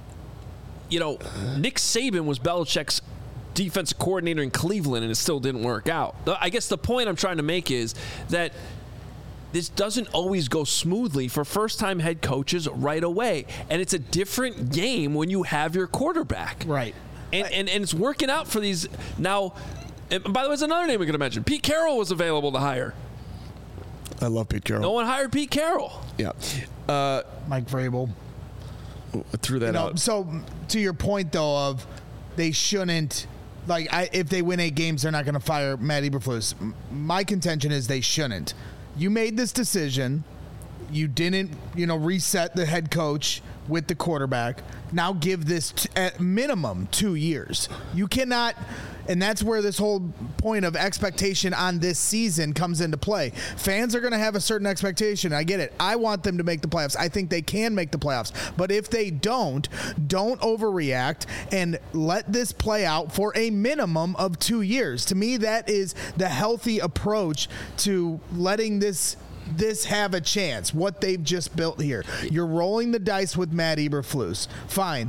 S1: Nick Saban was Belichick's defensive coordinator in Cleveland, and it still didn't work out. I guess the point I'm trying to make is that this doesn't always go smoothly for first-time head coaches right away. And it's a different game when you have your quarterback.
S3: Right.
S1: And it's working out for these. Now, and by the way, there's another name we could have mentioned. Pete Carroll was available to hire.
S2: I love Pete Carroll.
S1: No one hired Pete Carroll.
S2: Yeah.
S3: Mike Vrabel.
S2: Threw that out.
S3: So, to your point, though, of they shouldn't, if they win 8 games, they're not going to fire Matt Eberflus. My contention is they shouldn't. You made this decision. You didn't, reset the head coach with the quarterback. Now give this at minimum 2 years. You cannot, and that's where this whole point of expectation on this season comes into play. Fans are going to have a certain expectation. I get it. I want them to make the playoffs. I think they can make the playoffs. But if they don't overreact and let this play out for a minimum of 2 years. To me, that is the healthy approach to letting this have a chance, what they've just built here. You're rolling the dice with Matt Eberflus. Fine.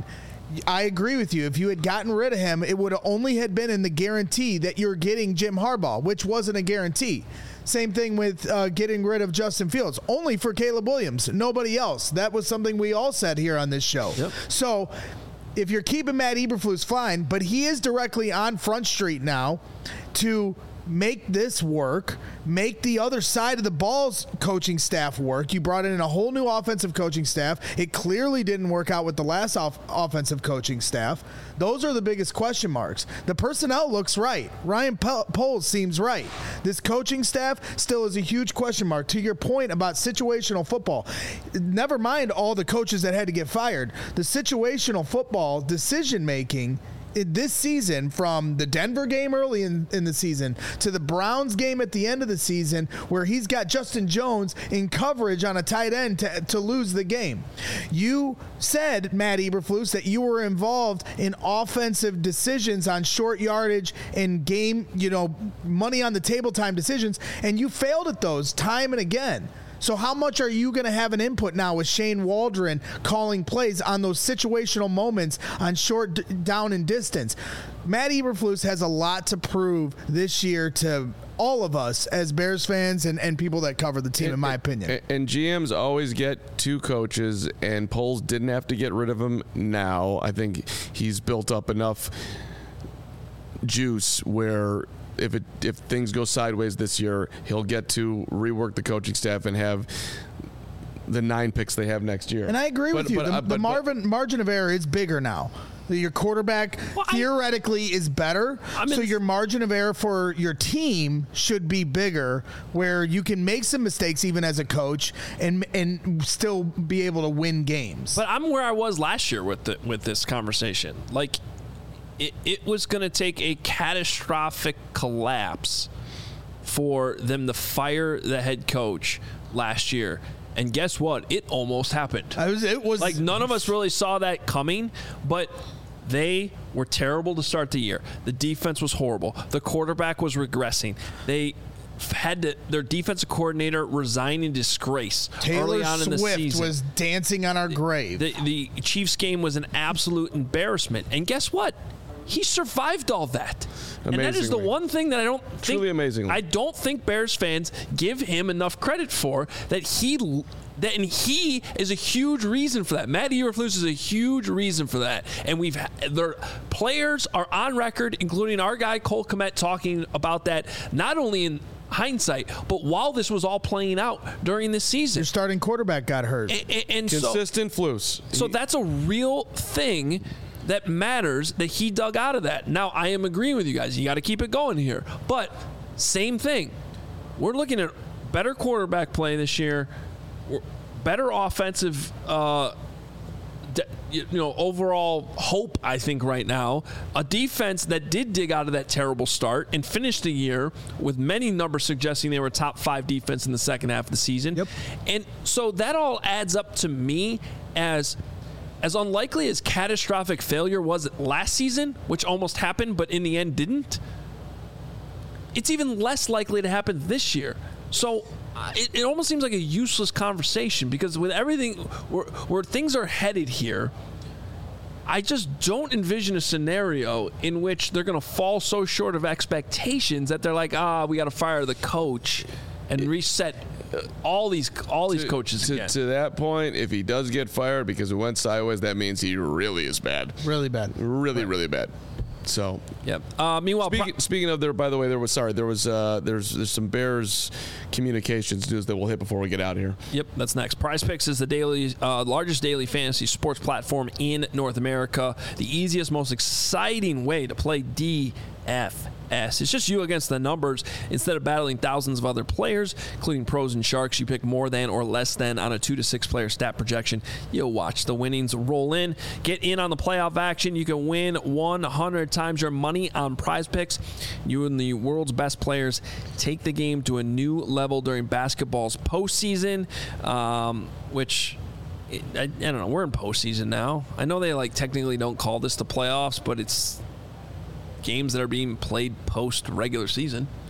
S3: I agree with you. If you had gotten rid of him, it would have only had been in the guarantee that you're getting Jim Harbaugh, which wasn't a guarantee. Same thing with getting rid of Justin Fields, only for Caleb Williams, nobody else. That was something we all said here on this show.
S1: Yep.
S3: So if you're keeping Matt Eberflus, fine, but he is directly on Front Street now to make this work, make the other side of the ball's coaching staff work. You brought in a whole new offensive coaching staff. It clearly didn't work out with the last offensive coaching staff. Those are the biggest question marks. The personnel looks right. Ryan Poles seems right. This coaching staff still is a huge question mark. To your point about situational football, never mind all the coaches that had to get fired. The situational football decision-making this season, from the Denver game early in the season to the Browns game at the end of the season, where he's got Justin Jones in coverage on a tight end to lose the game. You said, Matt Eberflus, that you were involved in offensive decisions on short yardage and game, money on the table time decisions, and you failed at those time and again. So how much are you going to have an input now with Shane Waldron calling plays on those situational moments on short down and distance? Matt Eberflus has a lot to prove this year to all of us as Bears fans and people that cover the team, in my opinion.
S2: And GMs always get two coaches, and Poles didn't have to get rid of him now. I think he's built up enough juice where if things go sideways this year, he'll get to rework the coaching staff and have the 9 picks they have next year.
S3: And I agree with you. The margin of error is bigger now. Your quarterback theoretically is better, so your margin of error for your team should be bigger, where you can make some mistakes even as a coach and still be able to win games.
S1: But I'm where I was last year with this conversation. Like, it was going to take a catastrophic collapse for them to fire the head coach last year. And guess what? It almost happened.
S3: It was
S1: like, none of us really saw that coming, but they were terrible to start the year. The defense was horrible. The quarterback was regressing. They had their defensive coordinator resign in disgrace early on in the season.
S3: Taylor Swift was dancing on our grave.
S1: The Chiefs game was an absolute embarrassment. And guess what? He survived all that. And that is the one thing that I don't think.
S2: Truly amazing.
S1: I don't think Bears fans give him enough credit for, and he is a huge reason for that. Matt Eberflus is a huge reason for that. And their players are on record, including our guy Cole Kmet, talking about that not only in hindsight, but while this was all playing out during this season.
S3: Your starting quarterback got hurt.
S1: And
S2: consistent flus.
S1: So that's a real thing that matters, that he dug out of that. Now, I am agreeing with you guys. You got to keep it going here. But same thing. We're looking at better quarterback play this year, better offensive overall hope, I think, right now. A defense that did dig out of that terrible start and finished the year with many numbers suggesting they were a top 5 defense in the second half of the season.
S3: Yep.
S1: And so that all adds up to me as unlikely as catastrophic failure was last season, which almost happened but in the end didn't. It's even less likely to happen this year. So it almost seems like a useless conversation, because with everything where things are headed here, I just don't envision a scenario in which they're going to fall so short of expectations that they're like, we got to fire the coach and reset all these coaches again.
S2: To that point, if he does get fired because it went sideways, that means he really is bad.
S3: Really bad.
S2: Really bad. So,
S1: yep. Meanwhile,
S2: speaking of there, by the way, there's some Bears communications news that we'll hit before we get out of here.
S1: Yep, that's next. Prize Picks is the largest daily fantasy sports platform in North America. The easiest, most exciting way to play DFS. It's just you against the numbers. Instead of battling thousands of other players, including pros and sharks, you pick more than or less than on a 2 to 6 player stat projection. You'll watch the winnings roll in. Get in on the playoff action. You can win 100 times your money on Prize Picks. You and the world's best players take the game to a new level during basketball's postseason, which I don't know. We're in postseason now. I know they technically don't call this the playoffs, but it's games that are being played post regular season.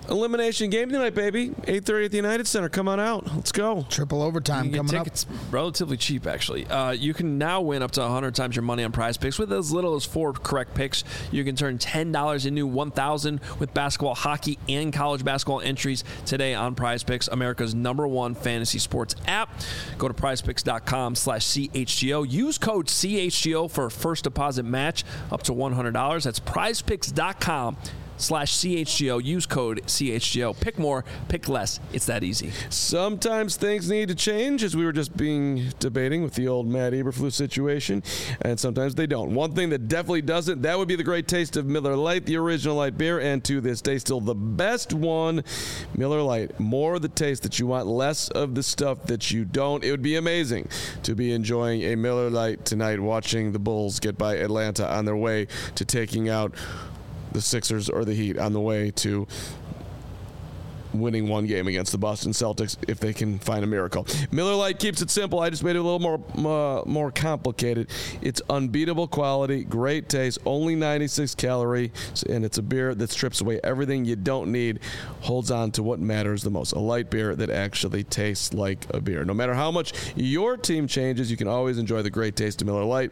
S2: Elimination game tonight, baby. 8:30 at the United Center. Come on out. Let's go.
S3: Triple overtime coming up.
S1: It's relatively cheap, actually. You can now win up to 100 times your money on Prize Picks with as little as 4 correct picks. You can turn $10 into $1,000 with basketball, hockey, and college basketball entries today on Prize Picks, America's #1 fantasy sports app. Go to prizepicks.com/CHGO. Use code CHGO for a first deposit match up to $100. That's prizepicks.com/CHGO. Use code CHGO. Pick more, pick less. It's that easy.
S2: Sometimes things need to change, as we were just debating with the old Matt Eberflus situation, and sometimes they don't. One thing that definitely doesn't, that would be the great taste of Miller Lite, the original light beer, and to this day still the best one, Miller Lite. More of the taste that you want, less of the stuff that you don't. It would be amazing to be enjoying a Miller Lite tonight, watching the Bulls get by Atlanta on their way to taking out the Sixers or the Heat, on the way to winning one game against the Boston Celtics if they can find a miracle. Miller Lite keeps it simple. I just made it a little more complicated. It's unbeatable quality, great taste, only 96 calories, and it's a beer that strips away everything you don't need, holds on to what matters the most. A light beer that actually tastes like a beer. No matter how much your team changes, you can always enjoy the great taste of Miller Lite.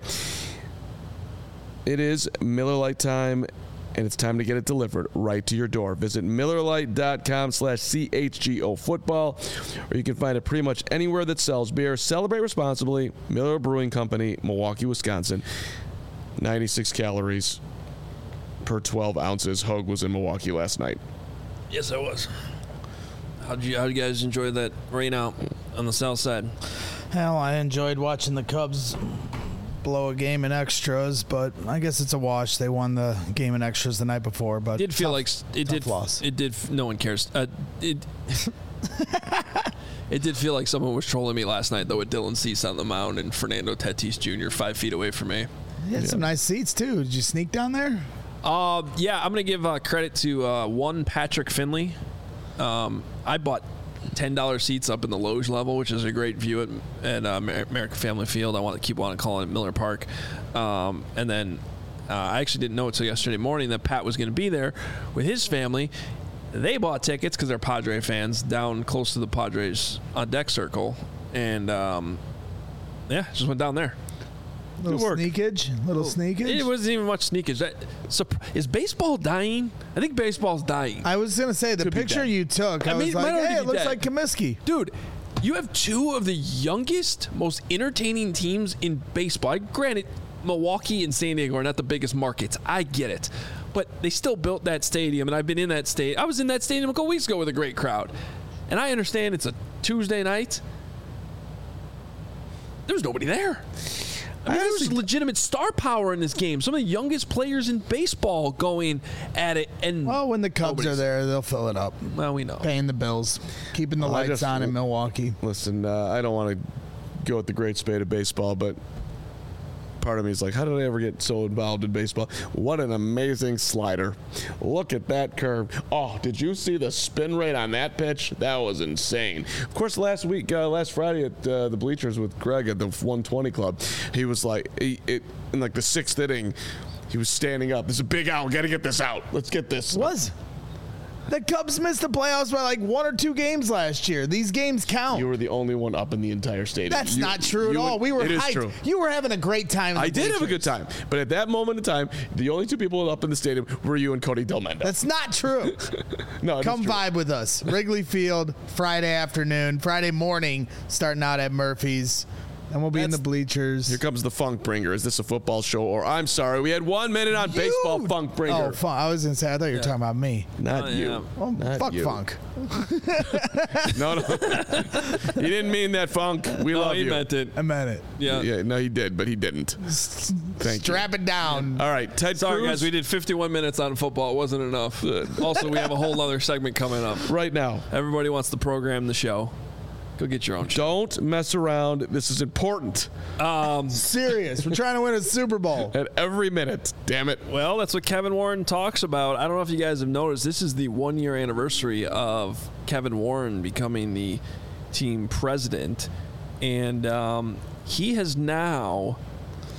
S2: It is Miller Lite time, and it's time to get it delivered right to your door. Visit MillerLite.com/CHGO football, or you can find it pretty much anywhere that sells beer. Celebrate responsibly. Miller Brewing Company, Milwaukee, Wisconsin. 96 calories per 12 ounces. Hogue was in Milwaukee last night.
S1: Yes, I was. How'd you guys enjoy that rain out on the south side?
S3: Hell, I enjoyed watching the Cubs blow a game in extras, but I guess it's a wash. They won the game in extras the night before, but
S1: it did feel like it did.
S3: Loss.
S1: It did. No one cares. It did feel like someone was trolling me last night, though, with Dylan Cease on the mound and Fernando Tatis Jr. 5 feet away from me.
S3: You had some nice seats too. Did you sneak down there?
S1: Yeah, I'm gonna give credit to one Patrick Finley. I bought $10 seats up in the Loge level, which is a great view at American Family Field. I keep wanting to call it Miller Park. And then I actually didn't know until yesterday morning that Pat was going to be there with his family. They bought tickets because they're Padre fans down close to the Padres on deck circle. And, just went down there.
S3: Little sneakage.
S1: It wasn't even much sneakage. Is baseball dying? I think baseball's dying.
S3: I was going to say, the picture you took, I was like, hey, it looks like Comiskey.
S1: Dude, you have two of the youngest, most entertaining teams in baseball. Granted, Milwaukee and San Diego are not the biggest markets. I get it. But they still built that stadium, and I've been in that stadium. I was in that stadium a couple weeks ago with a great crowd. And I understand it's a Tuesday night. There was nobody there. I mean, there's legitimate star power in this game. Some of the youngest players in baseball going at it. And
S3: when the Cubs are there, they'll fill it up.
S1: Well, we know.
S3: Paying the bills. Keeping the lights on in Milwaukee.
S2: Listen, I don't want to go with the great spade of baseball, but part of me is like, how did I ever get so involved in baseball? What an amazing slider. Look at that curve. Oh, did you see the spin rate on that pitch? That was insane. Of course, last Friday at the bleachers with Greg at the 120 Club, he was like, in like the 6th inning, he was standing up. This is a big out. We got to get this out. Let's get this.
S3: The Cubs missed the playoffs by like 1 or 2 games last year. These games count.
S2: You were the only one up in the entire stadium.
S3: That's not true at all. We were hyped. It is true. You were having a great time.
S2: I did have a good time. But at that moment in time, the only 2 people up in the stadium were you and Cody Delmendo.
S3: That's not true.
S2: No,
S3: come vibe with us. Wrigley Field, Friday morning, starting out at Murphy's. And we'll be in the bleachers.
S2: Here comes the Funk Bringer. Is this a football show? Or I'm sorry, we had 1 minute on baseball. Funk Bringer.
S3: Oh, I was going to say, I thought you were talking about me.
S2: Not you.
S1: Yeah.
S3: Well,
S2: not
S3: fuck
S2: you.
S3: Funk.
S2: No. He didn't mean that, Funk. We love you.
S1: He meant it.
S3: I meant it.
S1: Yeah.
S2: No, he did, but he didn't. Thank you.
S3: Strap it down.
S2: All right, Ted
S1: Sorry,
S2: Cruz.
S1: guys. We did 51 minutes on football. It wasn't enough. Also, we have a whole other segment coming up.
S2: Right now.
S1: Everybody wants to program the show. Go get your own show.
S2: Don't mess around. This is important.
S3: Serious. We're trying to win a Super Bowl.
S2: At every minute. Damn it.
S1: Well, that's what Kevin Warren talks about. I don't know if you guys have noticed. This is the 1-year anniversary of Kevin Warren becoming the team president. And he has now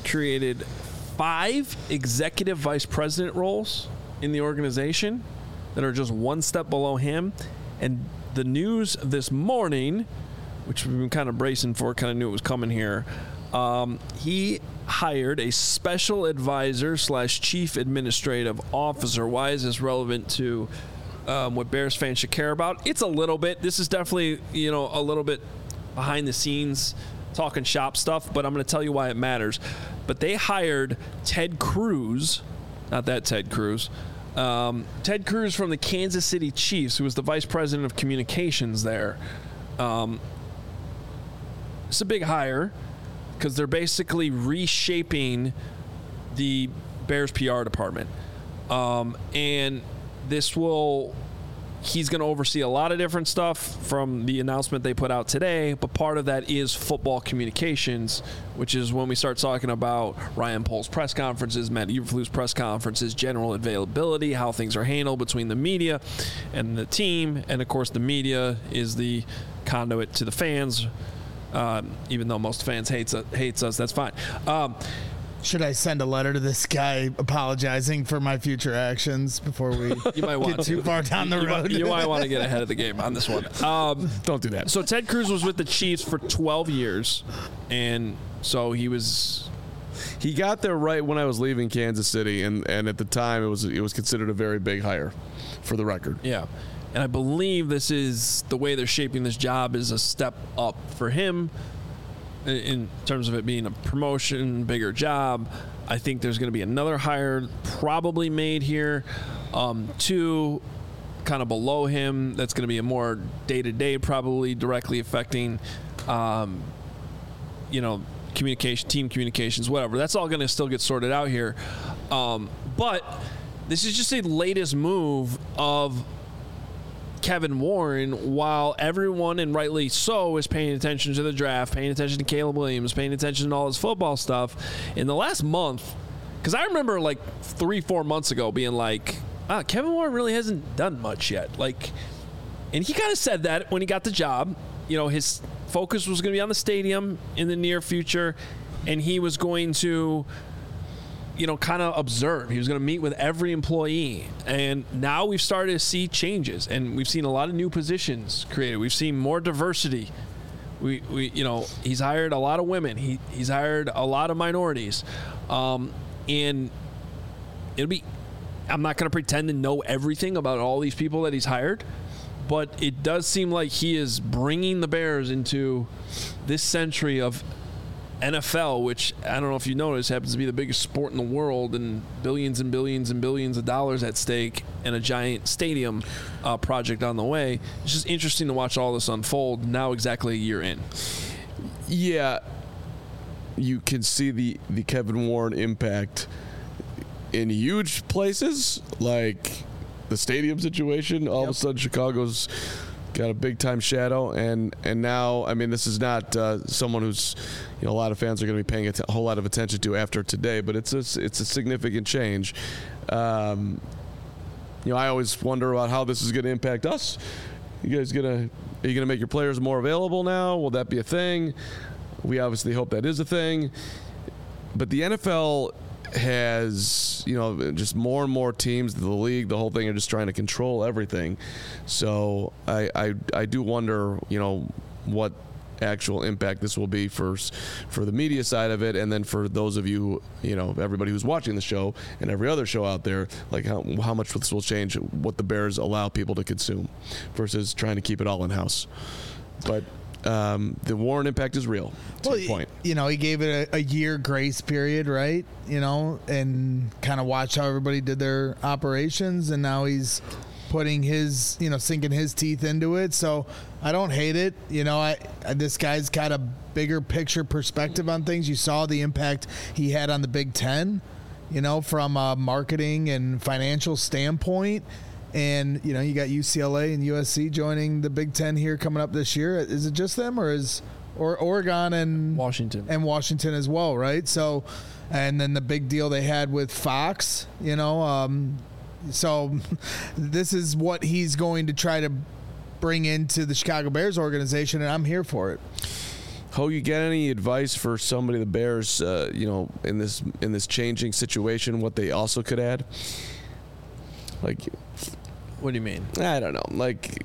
S1: created 5 executive vice president roles in the organization. that are just one step below him. And the news this morning, which we've been kind of bracing for, kind of knew it was coming here, he hired a special advisor / chief administrative officer. Why is this relevant to what Bears fans should care about? It's a little bit. This is definitely, a little bit behind the scenes talking shop stuff, but I'm going to tell you why it matters. But they hired Ted Cruz, not that Ted Cruz, Ted Cruz from the Kansas City Chiefs, who was the vice president of communications there. It's a big hire because they're basically reshaping the Bears PR department. And he's going to oversee a lot of different stuff from the announcement they put out today, but part of that is football communications, which is when we start talking about Ryan Pohl's press conferences, Matt Eberflus' press conferences, general availability, how things are handled between the media and the team. And, of course, the media is the conduit to the fans. Even though most fans hates us, that's fine.
S3: Should I send a letter to this guy apologizing for my future actions before we get too far down the road?
S1: You might want to get ahead of the game on this one.
S2: Don't do that.
S1: So Ted Cruz was with the Chiefs for 12 years, and so he
S2: got there right when I was leaving Kansas City, and at the time it was considered a very big hire, for the record.
S1: Yeah. And I believe this is the way they're shaping this job is a step up for him in terms of it being a promotion, bigger job. I think there's going to be another hire probably made here, two kind of below him. That's going to be a more day-to-day, probably directly affecting, communication, team communications, whatever. That's all going to still get sorted out here. But this is just a latest move of Kevin Warren, while everyone, and rightly so, is paying attention to the draft, paying attention to Caleb Williams, paying attention to all his football stuff. In the last month, because I remember like 3-4 months ago being like, Kevin Warren really hasn't done much yet. And he kind of said that when he got the job. His focus was going to be on the stadium in the near future, and he was going to kind of observe. He was going to meet with every employee. And now we've started to see changes, and we've seen a lot of new positions created. We've seen more diversity. He's hired a lot of women. He's hired a lot of minorities. And I'm not going to pretend to know everything about all these people that he's hired, but it does seem like he is bringing the Bears into this century of NFL, which I don't know if you noticed, happens to be the biggest sport in the world, and billions and billions and billions of dollars at stake, and a giant stadium project on the way. It's just interesting to watch all this unfold now, exactly a year in.
S2: Yeah, you can see the Kevin Warren impact in huge places, like the stadium situation. All of a sudden, Chicago's got a big-time shadow, and now, I mean, this is not someone who's, a lot of fans are going to be paying a whole lot of attention to after today, but it's a significant change. I always wonder about how this is going to impact us. Are you going to make your players more available now? Will that be a thing? We obviously hope that is a thing. But the NFL has, just more and more teams, the league, the whole thing are just trying to control everything. So I do wonder, what actual impact this will be for the media side of it, and then for those of you, everybody who's watching the show and every other show out there, like how much this will change what the Bears allow people to consume versus trying to keep it all in-house. But the Warren impact is real. Well, point.
S3: He gave it a year grace period, right? And kind of watched how everybody did their operations, and now he's putting his, sinking his teeth into it. So I don't hate it. This guy's got a bigger picture perspective on things. You saw the impact he had on the Big Ten, from a marketing and financial standpoint. And, you got UCLA and USC joining the Big Ten here coming up this year. Is it just them, or Oregon and Washington as well, right? So, and then the big deal they had with Fox, so this is what he's going to try to bring into the Chicago Bears organization, and I'm here for it.
S2: Ho, you get any advice for somebody, the Bears, in this changing situation, what they also could add? Like,
S1: What do you mean?
S2: I don't know. Like,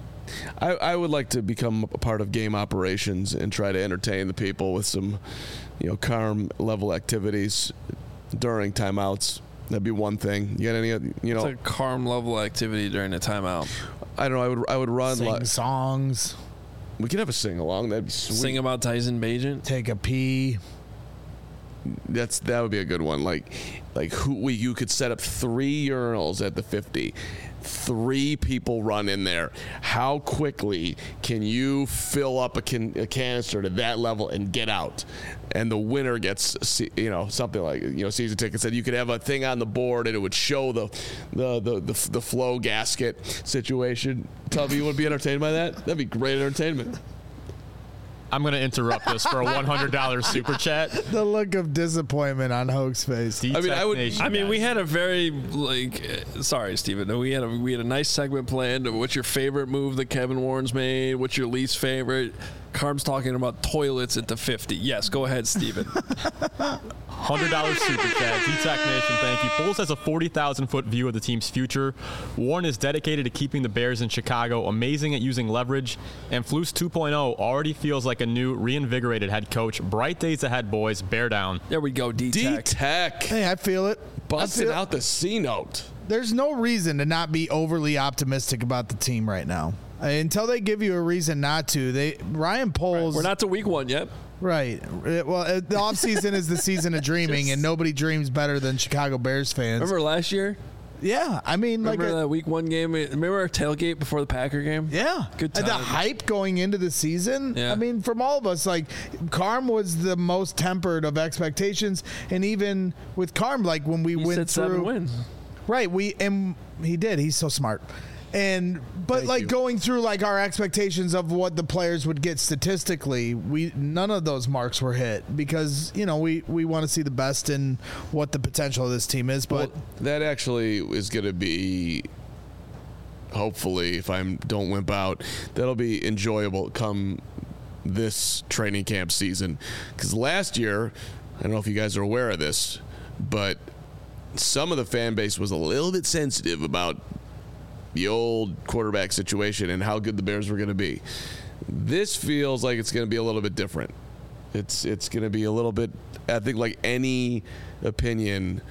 S2: I would like to become a part of game operations and try to entertain the people with some, calm level activities during timeouts. That'd be one thing. You got any?
S1: It's a calm level activity during a timeout.
S2: I don't know. I would run
S3: Sing songs.
S2: We could have a sing along. That'd be sweet.
S1: Sing about Tyson Bagent.
S3: Take a pee.
S2: That would be a good one. Like you could set up 3 urinals at the 50. 3 people run in there. How quickly can you fill up a canister to that level and get out? And the winner gets, something like, season tickets. And you could have a thing on the board and it would show the flow gasket situation. Tell me you would be entertained by that? That'd be great entertainment.
S5: I'm going to interrupt this for a $100 super chat.
S3: The look of disappointment on Hoke's face.
S1: We had a very sorry, Steven. We had a nice segment planned of what's your favorite move that Kevin Warren's made, what's your least favorite. Carm's talking about toilets at the 50. Yes, go ahead, Steven.
S5: $100 super chat. D-Tech Nation, thank you. Bulls has a 40,000-foot view of the team's future. Warren is dedicated to keeping the Bears in Chicago, amazing at using leverage, and Flus 2.0 already feels like a new, reinvigorated head coach. Bright days ahead, boys. Bear down.
S1: There we go, D-Tech.
S2: D-Tech.
S3: Hey, I feel it.
S2: Busting out the C-note.
S3: There's no reason to not be overly optimistic about the team right now. Until they give you a reason not to. Ryan Poles.
S1: We're not to week 1 yet.
S3: Right. Well, the offseason is the season of dreaming, and nobody dreams better than Chicago Bears fans.
S1: Remember last year?
S3: Yeah. I mean,
S1: remember that week 1 game? Remember our tailgate before the Packer game?
S3: Yeah.
S1: Good time.
S3: The hype going into the season. Yeah. I mean, from all of us, Carm was the most tempered of expectations, and even with Carm, when we went through
S1: 7 wins.
S3: Right. He did. He's so smart. But going through our expectations of what the players would get statistically, none of those marks were hit because we want to see the best in what the potential of this team is. But
S2: that actually is going to be, hopefully, if I don't wimp out, that'll be enjoyable come this training camp season. Because last year, I don't know if you guys are aware of this, but some of the fan base was a little bit sensitive about the old quarterback situation and how good the Bears were going to be. This feels like it's going to be a little bit different. It's going to be a little bit, I think, like any opinion,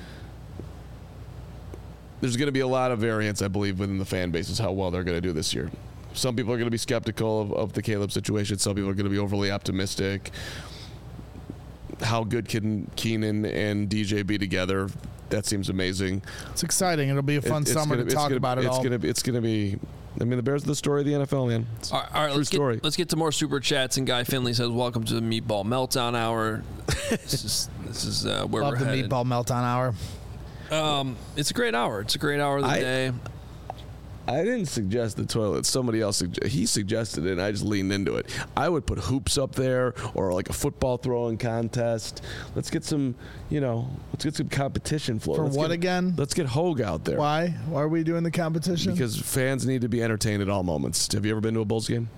S2: there's going to be a lot of variance, I believe, within the fan base is how well they're going to do this year. Some people are going to be skeptical of the Caleb situation. Some people are going to be overly optimistic. How good can Keenan and DJ be together? That seems amazing.
S3: It's exciting. It'll be a fun summer to talk about it all.
S2: It's going to be. I mean, the Bears are the story of the NFL, man.
S1: All right, let's get to more super chats. And Guy Finley says, "Welcome to the Meatball Meltdown Hour." This is where we're headed.
S3: Love the Meatball Meltdown Hour.
S1: It's a great hour. It's a great hour of the day.
S2: I didn't suggest the toilet. Somebody else he suggested it, and I just leaned into it. I would put hoops up there or a football throwing contest. Let's get some, let's get some competition flow.
S3: Again?
S2: Let's get Hogue out there.
S3: Why? Why are we doing the competition?
S2: Because fans need to be entertained at all moments. Have you ever been to a Bulls game?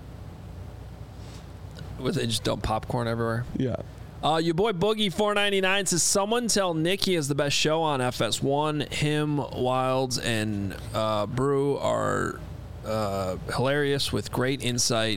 S1: Was they just dump popcorn everywhere?
S2: Yeah.
S1: Your boy Boogie499 says, someone tell Nick he has the best show on FS1. Him, Wilds, and Brew are hilarious with great insight.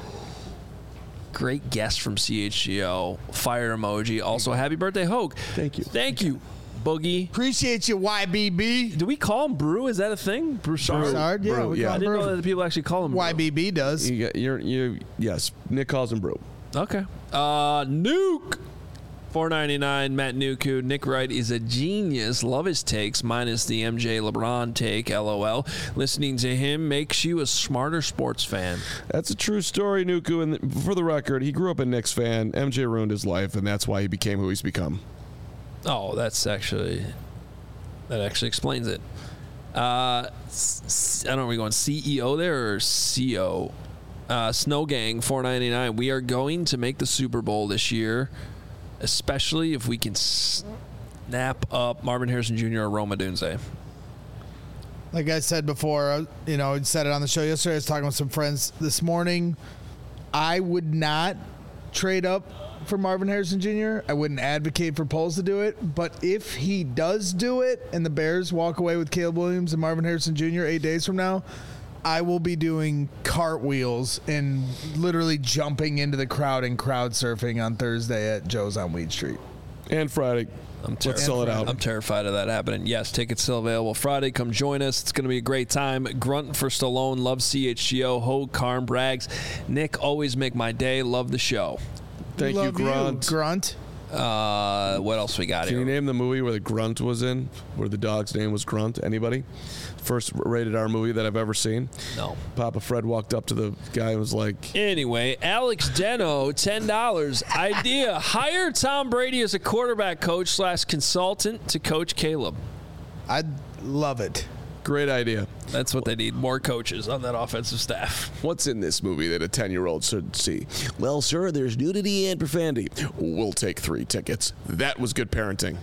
S1: Great guest from CHGO. Fire emoji. Also, happy birthday, Hogue.
S2: Thank you.
S1: Thank you, Boogie.
S3: Appreciate you, YBB.
S1: Do we call him Brew? Is that a thing? Broussard?
S3: Broussard, yeah.
S2: Brew,
S1: I didn't know that the people actually call him Brew.
S3: YBB does.
S2: Yes, Nick calls him Brew.
S1: Okay. Nuke. $4.99. Matt Nuku. Nick Wright is a genius. Love his takes, minus the MJ LeBron take. LOL. Listening to him makes you a smarter sports fan.
S2: That's a true story, Nuku. And for the record, he grew up a Knicks fan. MJ ruined his life, and that's why he became who he's become.
S1: Oh, that actually explains it. I don't know. Are we going CEO there or CO? Snow Gang 499. We are going to make the Super Bowl this year, especially if we can snap up Marvin Harrison Jr. or Rome Odunze.
S3: Like I said before, I said it on the show yesterday. I was talking with some friends this morning. I would not trade up for Marvin Harrison Jr. I wouldn't advocate for Poles to do it, but if he does do it and the Bears walk away with Caleb Williams and Marvin Harrison Jr. 8 days from now, I will be doing cartwheels and literally jumping into the crowd and crowd surfing on Thursday at Joe's on Weed Street.
S2: And Friday. Let's sell it out.
S1: I'm terrified of that happening. Yes, tickets still available Friday. Come join us. It's going to be a great time. Grunt for Stallone. Love CHGO. Hogue, Carm, Braggs. Nick, always make my day. Love the show.
S2: Thank you, Grunt.
S3: Grunt.
S1: What else we got
S2: Can
S1: here?
S2: you name the movie where the Grunt was in? Where the dog's name was Grunt? Anybody? First rated R movie that I've ever seen.
S1: No.
S2: Papa Fred walked up to the guy and was like,
S1: Anyway, Alex Deno, $10. Idea: hire Tom Brady as a quarterback coach / consultant to coach Caleb.
S3: I'd love it.
S2: great idea.
S1: That's what they need, more coaches on that offensive staff.
S2: What's in this movie that a 10-year-old should see? Well, sir, there's nudity and profanity. We'll take 3 tickets. That was good parenting.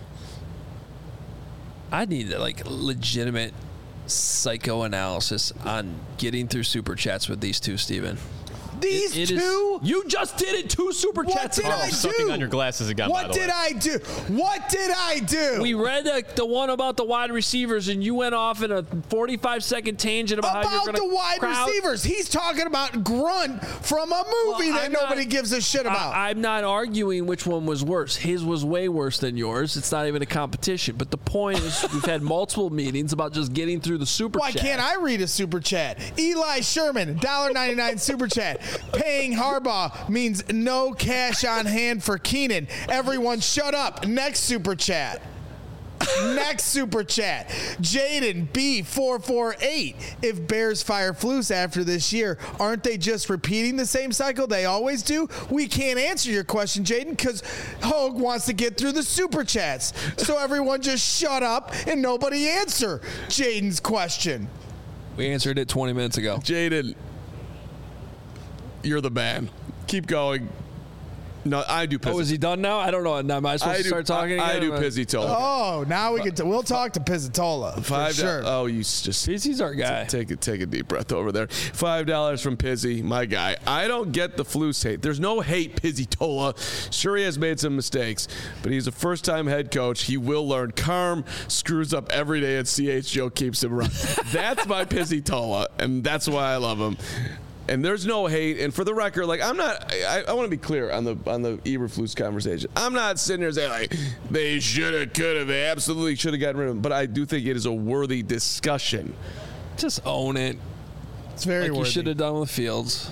S1: I need like legitimate psychoanalysis on getting through Super Chats with these two, Steven.
S3: These two?
S1: You just did it. 2 Super Chats.
S3: What did I do?
S5: Sucking on your glasses again, by
S3: What
S5: the
S3: did
S5: way.
S3: I do? What did I do?
S1: We read the one about the wide receivers, and you went off in a 45-second tangent about how you're going to
S3: the wide receivers. He's talking about Grunt from a movie that nobody gives a shit about.
S1: I'm not arguing which one was worse. His was way worse than yours. It's not even a competition. But the point is, we've had multiple meetings about just getting through the Super Chat.
S3: Why can't I read a Super Chat? Eli Sherman, $1.99 Super Chat. Paying Harbaugh means no cash on hand for Keenan. Everyone shut up. Next Super Chat. Next Super Chat. Jaden B448. If Bears fire Flus after this year, aren't they just repeating the same cycle they always do? We can't answer your question, Jaden, because Hogue wants to get through the Super Chats. So everyone just shut up and nobody answer Jaden's question.
S1: We answered it 20 minutes ago.
S2: Jaden, you're the man. Keep going. No, I do Pizzy.
S1: Oh, is he done now? I don't know. Am I supposed to start talking again?
S2: I do Pizzitola.
S3: Oh, now we can. We'll talk to Pizzitola for sure.
S2: Oh, you just
S1: Pizzy's our guy.
S2: Take a deep breath over there. $5 from Pizzy, my guy. I don't get the Flus hate. There's no hate, Pizzitola. Sure, he has made some mistakes, but he's a first-time head coach. He will learn. Carm screws up every day, and CHGO keeps him around. That's my Pizzitola, and that's why I love him. And there's no hate. And for the record, like I want to be clear on the Eberflus conversation. I'm not sitting here saying like they should have, could have, they absolutely should have gotten rid of him. But I do think it is a worthy discussion.
S1: Just own it.
S3: It's very
S1: like
S3: worthy.
S1: you should have done with Fields.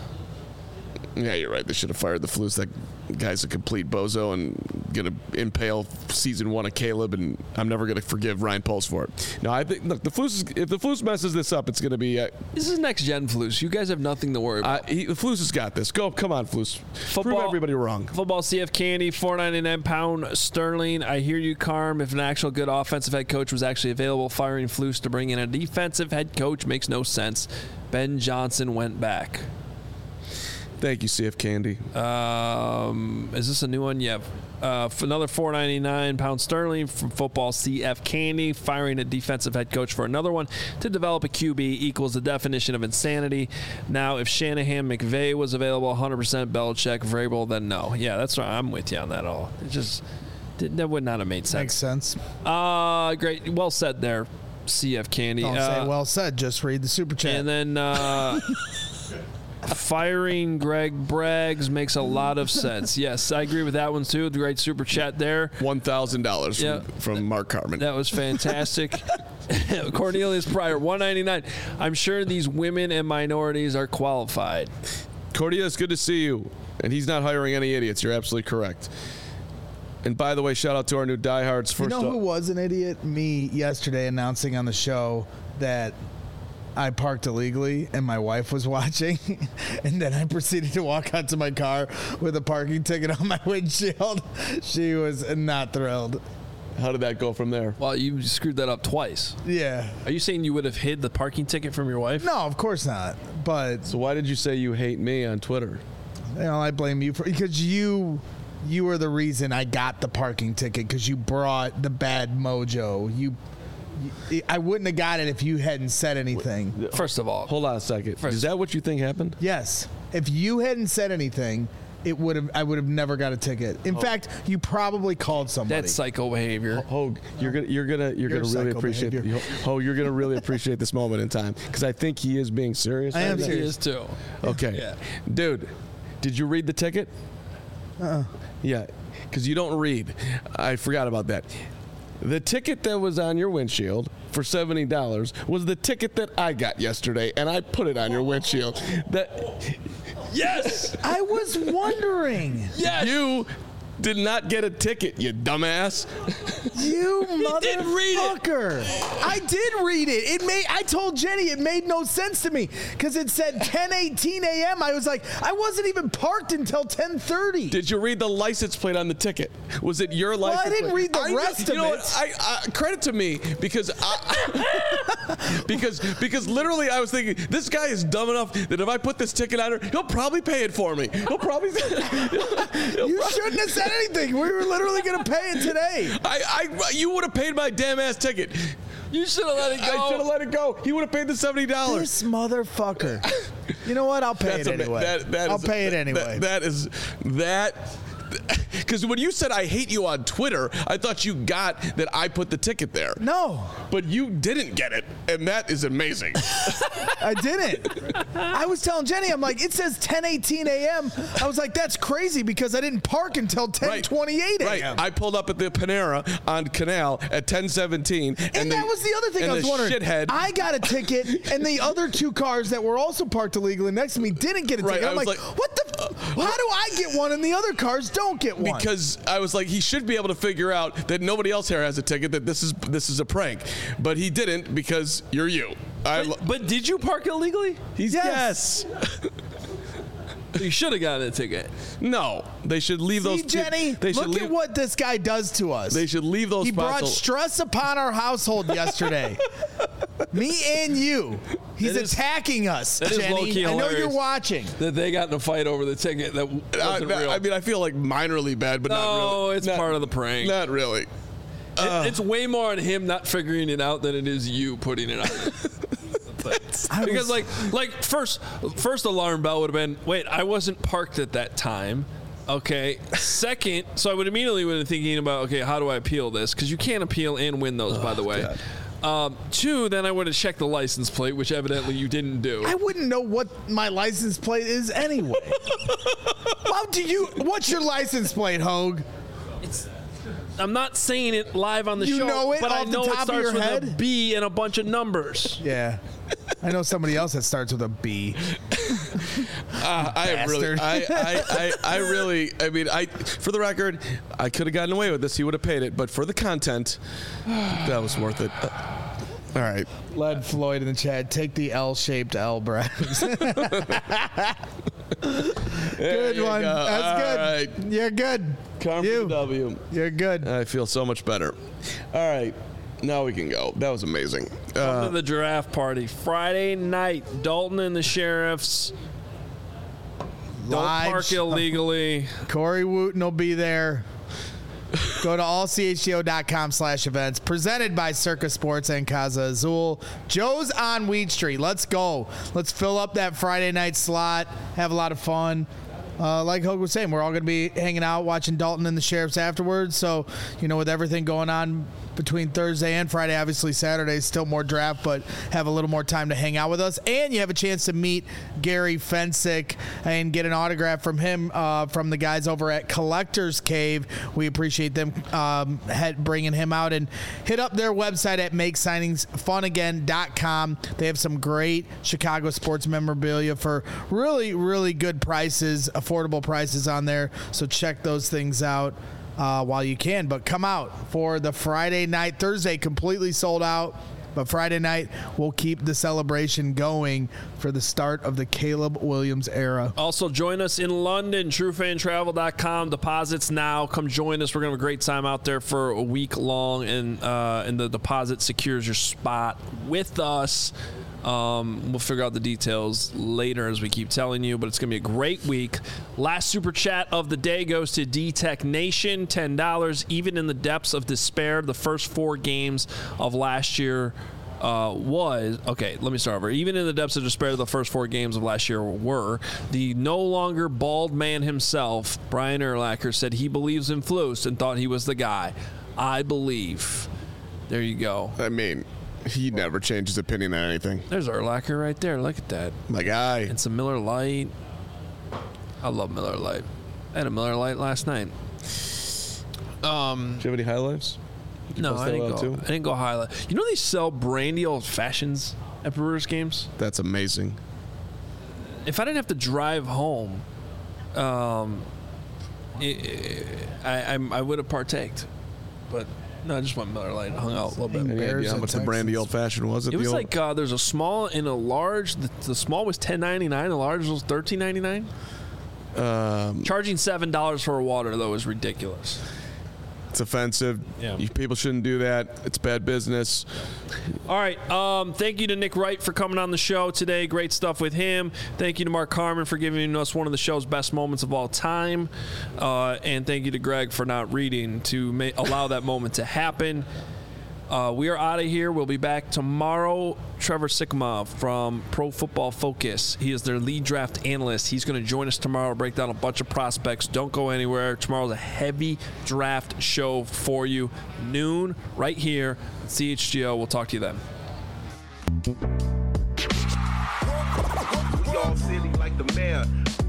S2: Yeah, you're right. They should have fired the Flus. That guy's a complete bozo and gonna impale season 1 of Caleb. And I'm never gonna forgive Ryan Poles for it. No, I think look, if the Flus messes this up, it's gonna be.
S1: This is next gen Flus. You guys have nothing to worry about.
S2: The Flus has got this. Come on, Flus. Prove everybody wrong.
S1: Football CF Candy, $4.99 pound sterling. I hear you, Carm. If an actual good offensive head coach was actually available, firing Flus to bring in a defensive head coach makes no sense. Ben Johnson went back.
S2: Thank you, CF Candy.
S1: Is this a new one? Yeah. For another $4.99 pound sterling from Football CF Candy, firing a defensive head coach for another one to develop a QB equals the definition of insanity. Now, if Shanahan McVay was available, 100% Belichick, Vrabel, then no. Yeah, that's right. I'm with you on that all. It just that would not have made sense.
S3: Makes sense.
S1: Great. Well said there, CF Candy.
S3: Don't say well said. Just read the Super Chat.
S1: And then firing Greg Braggs makes a lot of sense. Yes, I agree with that one too. The great Super Chat there.
S2: $1,000 from Mark Carman.
S1: That was fantastic. Cornelius Pryor, $199. I'm sure these women and minorities are qualified.
S2: Cornelius, good to see you. And he's not hiring any idiots. You're absolutely correct. And by the way, shout out to our new diehards.
S3: You know who was an idiot? Me yesterday announcing on the show that I parked illegally and my wife was watching, and then I proceeded to walk out to my car with a parking ticket on my windshield. She was not thrilled.
S2: How did that go from there?
S1: Well, you screwed that up twice.
S3: Yeah.
S1: Are you saying you would have hid the parking ticket from your wife?
S3: No, of course not. But
S2: so why did you say you hate me on Twitter?
S3: I blame you because you were the reason I got the parking ticket because you brought the bad mojo. I wouldn't have got it if you hadn't said anything.
S1: First of all,
S2: hold on a second. Is that what you think happened?
S3: Yes. If you hadn't said anything, I would have never got a ticket. In fact, you probably called somebody.
S1: That's psycho behavior.
S2: Hogue, you're gonna really appreciate you're gonna really appreciate this moment in time because I think he is being serious.
S3: I am
S1: He
S3: serious
S1: is too.
S2: Okay, dude, did you read the ticket? Yeah, because you don't read. I forgot about that. The ticket that was on your windshield for $70 was the ticket that I got yesterday, and I put it on your windshield.
S1: Yes!
S3: I was wondering.
S1: Yes!
S2: You did not get a ticket, you dumbass.
S3: You motherfucker.
S1: did read it.
S3: I did read it. I told Jenny it made no sense to me because it said 10:18 a.m. I was like, I wasn't even parked until 10:30.
S2: Did you read the license plate on the ticket? Was it your license plate?
S3: I didn't read the rest of it.
S2: What? Credit to me because because literally I was thinking this guy is dumb enough that if I put this ticket on her, he'll probably pay it for me. He'll probably.
S3: You shouldn't have said anything. We were literally going to pay it today.
S2: You would have paid my damn ass ticket.
S1: You should have let it go.
S2: I should have let it go. He would have paid the $70.
S3: This motherfucker. You know what? I'll pay it anyway. I'll pay it anyway.
S2: Because when you said I hate you on Twitter, I thought you got that I put the ticket there.
S3: No.
S2: But you didn't get it, and that is amazing.
S3: I didn't. I was telling Jenny, I'm like, it says 10:18 a.m. I was like, that's crazy because I didn't park until 10:28 a.m.
S2: Right. I pulled up at the Panera on Canal at 10:17.
S3: And that was the other thing I was wondering.
S2: Shithead.
S3: I got a ticket, and the other two cars that were also parked illegally next to me didn't get a ticket. I'm like, what the? How do I get one and the other cars don't get one?
S2: Because I was like, he should be able to figure out that nobody else here has a ticket, that this is a prank. But he didn't because you're you.
S1: But did you park illegally?
S2: Yes.
S1: You should have gotten a ticket.
S2: No, they should leave those.
S3: Jenny, look at what this guy does to us.
S2: They should leave those.
S3: He brought stress upon our household yesterday. Me and you. He's attacking us, Jenny. I know you're watching.
S1: That they got in a fight over the ticket that wasn't real.
S2: I mean, I feel like minorly bad, but not really.
S1: No, it's part of the prank.
S2: Not really.
S1: It's way more on him not figuring it out than it is you putting it on. Because like first alarm bell would have been, wait, I wasn't parked at that time. Okay. Second, so I would immediately been thinking about, okay, how do I appeal this? Because you can't appeal and win those, by the way. Two, then I would have checked the license plate, which evidently you didn't do.
S3: I wouldn't know what my license plate is anyway. What's your license plate, Hogue?
S1: I'm not saying it live on the show,
S3: know it
S1: but I
S3: off the
S1: know it
S3: top of
S1: starts
S3: your
S1: with
S3: head?
S1: a B and a bunch of numbers.
S3: Yeah. I know somebody else that starts with a B.
S2: I for the record, I could have gotten away with this. He would have paid it, but for the content, that was worth it. All right.
S3: Led Floyd in the chat, take the L-shaped L, Brad. Good one.
S2: Go.
S3: That's good.
S2: Right.
S3: You're good.
S2: Come for the W.
S3: You're good.
S2: I feel so much better. All right. Now we can go. That was amazing.
S1: Come to the giraffe party. Friday night, Dalton and the Sheriffs. Don't park illegally.
S3: Corey Wooten will be there. Go to allchgo.com/events. Presented by Circa Sports and Casa Azul. Joe's on Wheat Street. Let's go. Let's fill up that Friday night slot. Have a lot of fun. Like Hogue was saying, we're all going to be hanging out, watching Dalton and the Sheriffs afterwards. So, with everything going on between Thursday and Friday, obviously Saturday, still more draft, but have a little more time to hang out with us. And you have a chance to meet Gary Fensick and get an autograph from him, from the guys over at Collector's Cave. We appreciate them bringing him out. And hit up their website at makesigningsfunagain.com. They have some great Chicago sports memorabilia for really, really good prices, affordable prices on there. So check those things out while you can. But come out for the Friday night. Thursday completely sold out, but Friday night we'll keep the celebration going for the start of the Caleb Williams era.
S1: Also join us in London, truefantravel.com. Deposits now. Come join us. We're going to have a great time out there for a week long, and the deposit secures your spot with us. We'll figure out the details later as we keep telling you, but it's going to be a great week. Last super chat of the day goes to D-Tech Nation, $10. Even in the depths of despair, the first 4 games of last year was, okay, let me start over. Even in the depths of despair, the first 4 games of last year were the no longer bald man himself, Brian Urlacher, said he believes in Flus and thought he was the guy. I believe. There you go.
S2: I mean, he never changed his opinion on anything.
S1: There's Urlacher right there. Look at that.
S2: My guy.
S1: And some Miller Lite. I love Miller Lite. I had a Miller Lite last night.
S2: Do you have any highlights?
S1: No, I didn't go highlight. You know they sell brandy old fashions at Brewers games?
S2: That's amazing.
S1: If I didn't have to drive home, I would have partaked. But no, I just went Miller Lite, hung out a little bit.
S2: Any idea how much the brandy old fashioned was?
S1: It was like there's a small and a large. The small was $10.99. The large was $13.99. Charging $7 for a water though is ridiculous.
S2: It's offensive.
S1: Yeah.
S2: People shouldn't do that. It's bad business.
S1: All right. Thank you to Nick Wright for coming on the show today. Great stuff with him. Thank you to Mark Carman for giving us one of the show's best moments of all time. And thank you to Greg for not reading to allow that moment to happen. We are out of here. We'll be back tomorrow. Trevor Sikkema from Pro Football Focus. He is their lead draft analyst. He's going to join us tomorrow to break down a bunch of prospects. Don't go anywhere. Tomorrow's a heavy draft show for you. Noon, right here at CHGO. We'll talk to you then.
S6: We all silly like the mayor.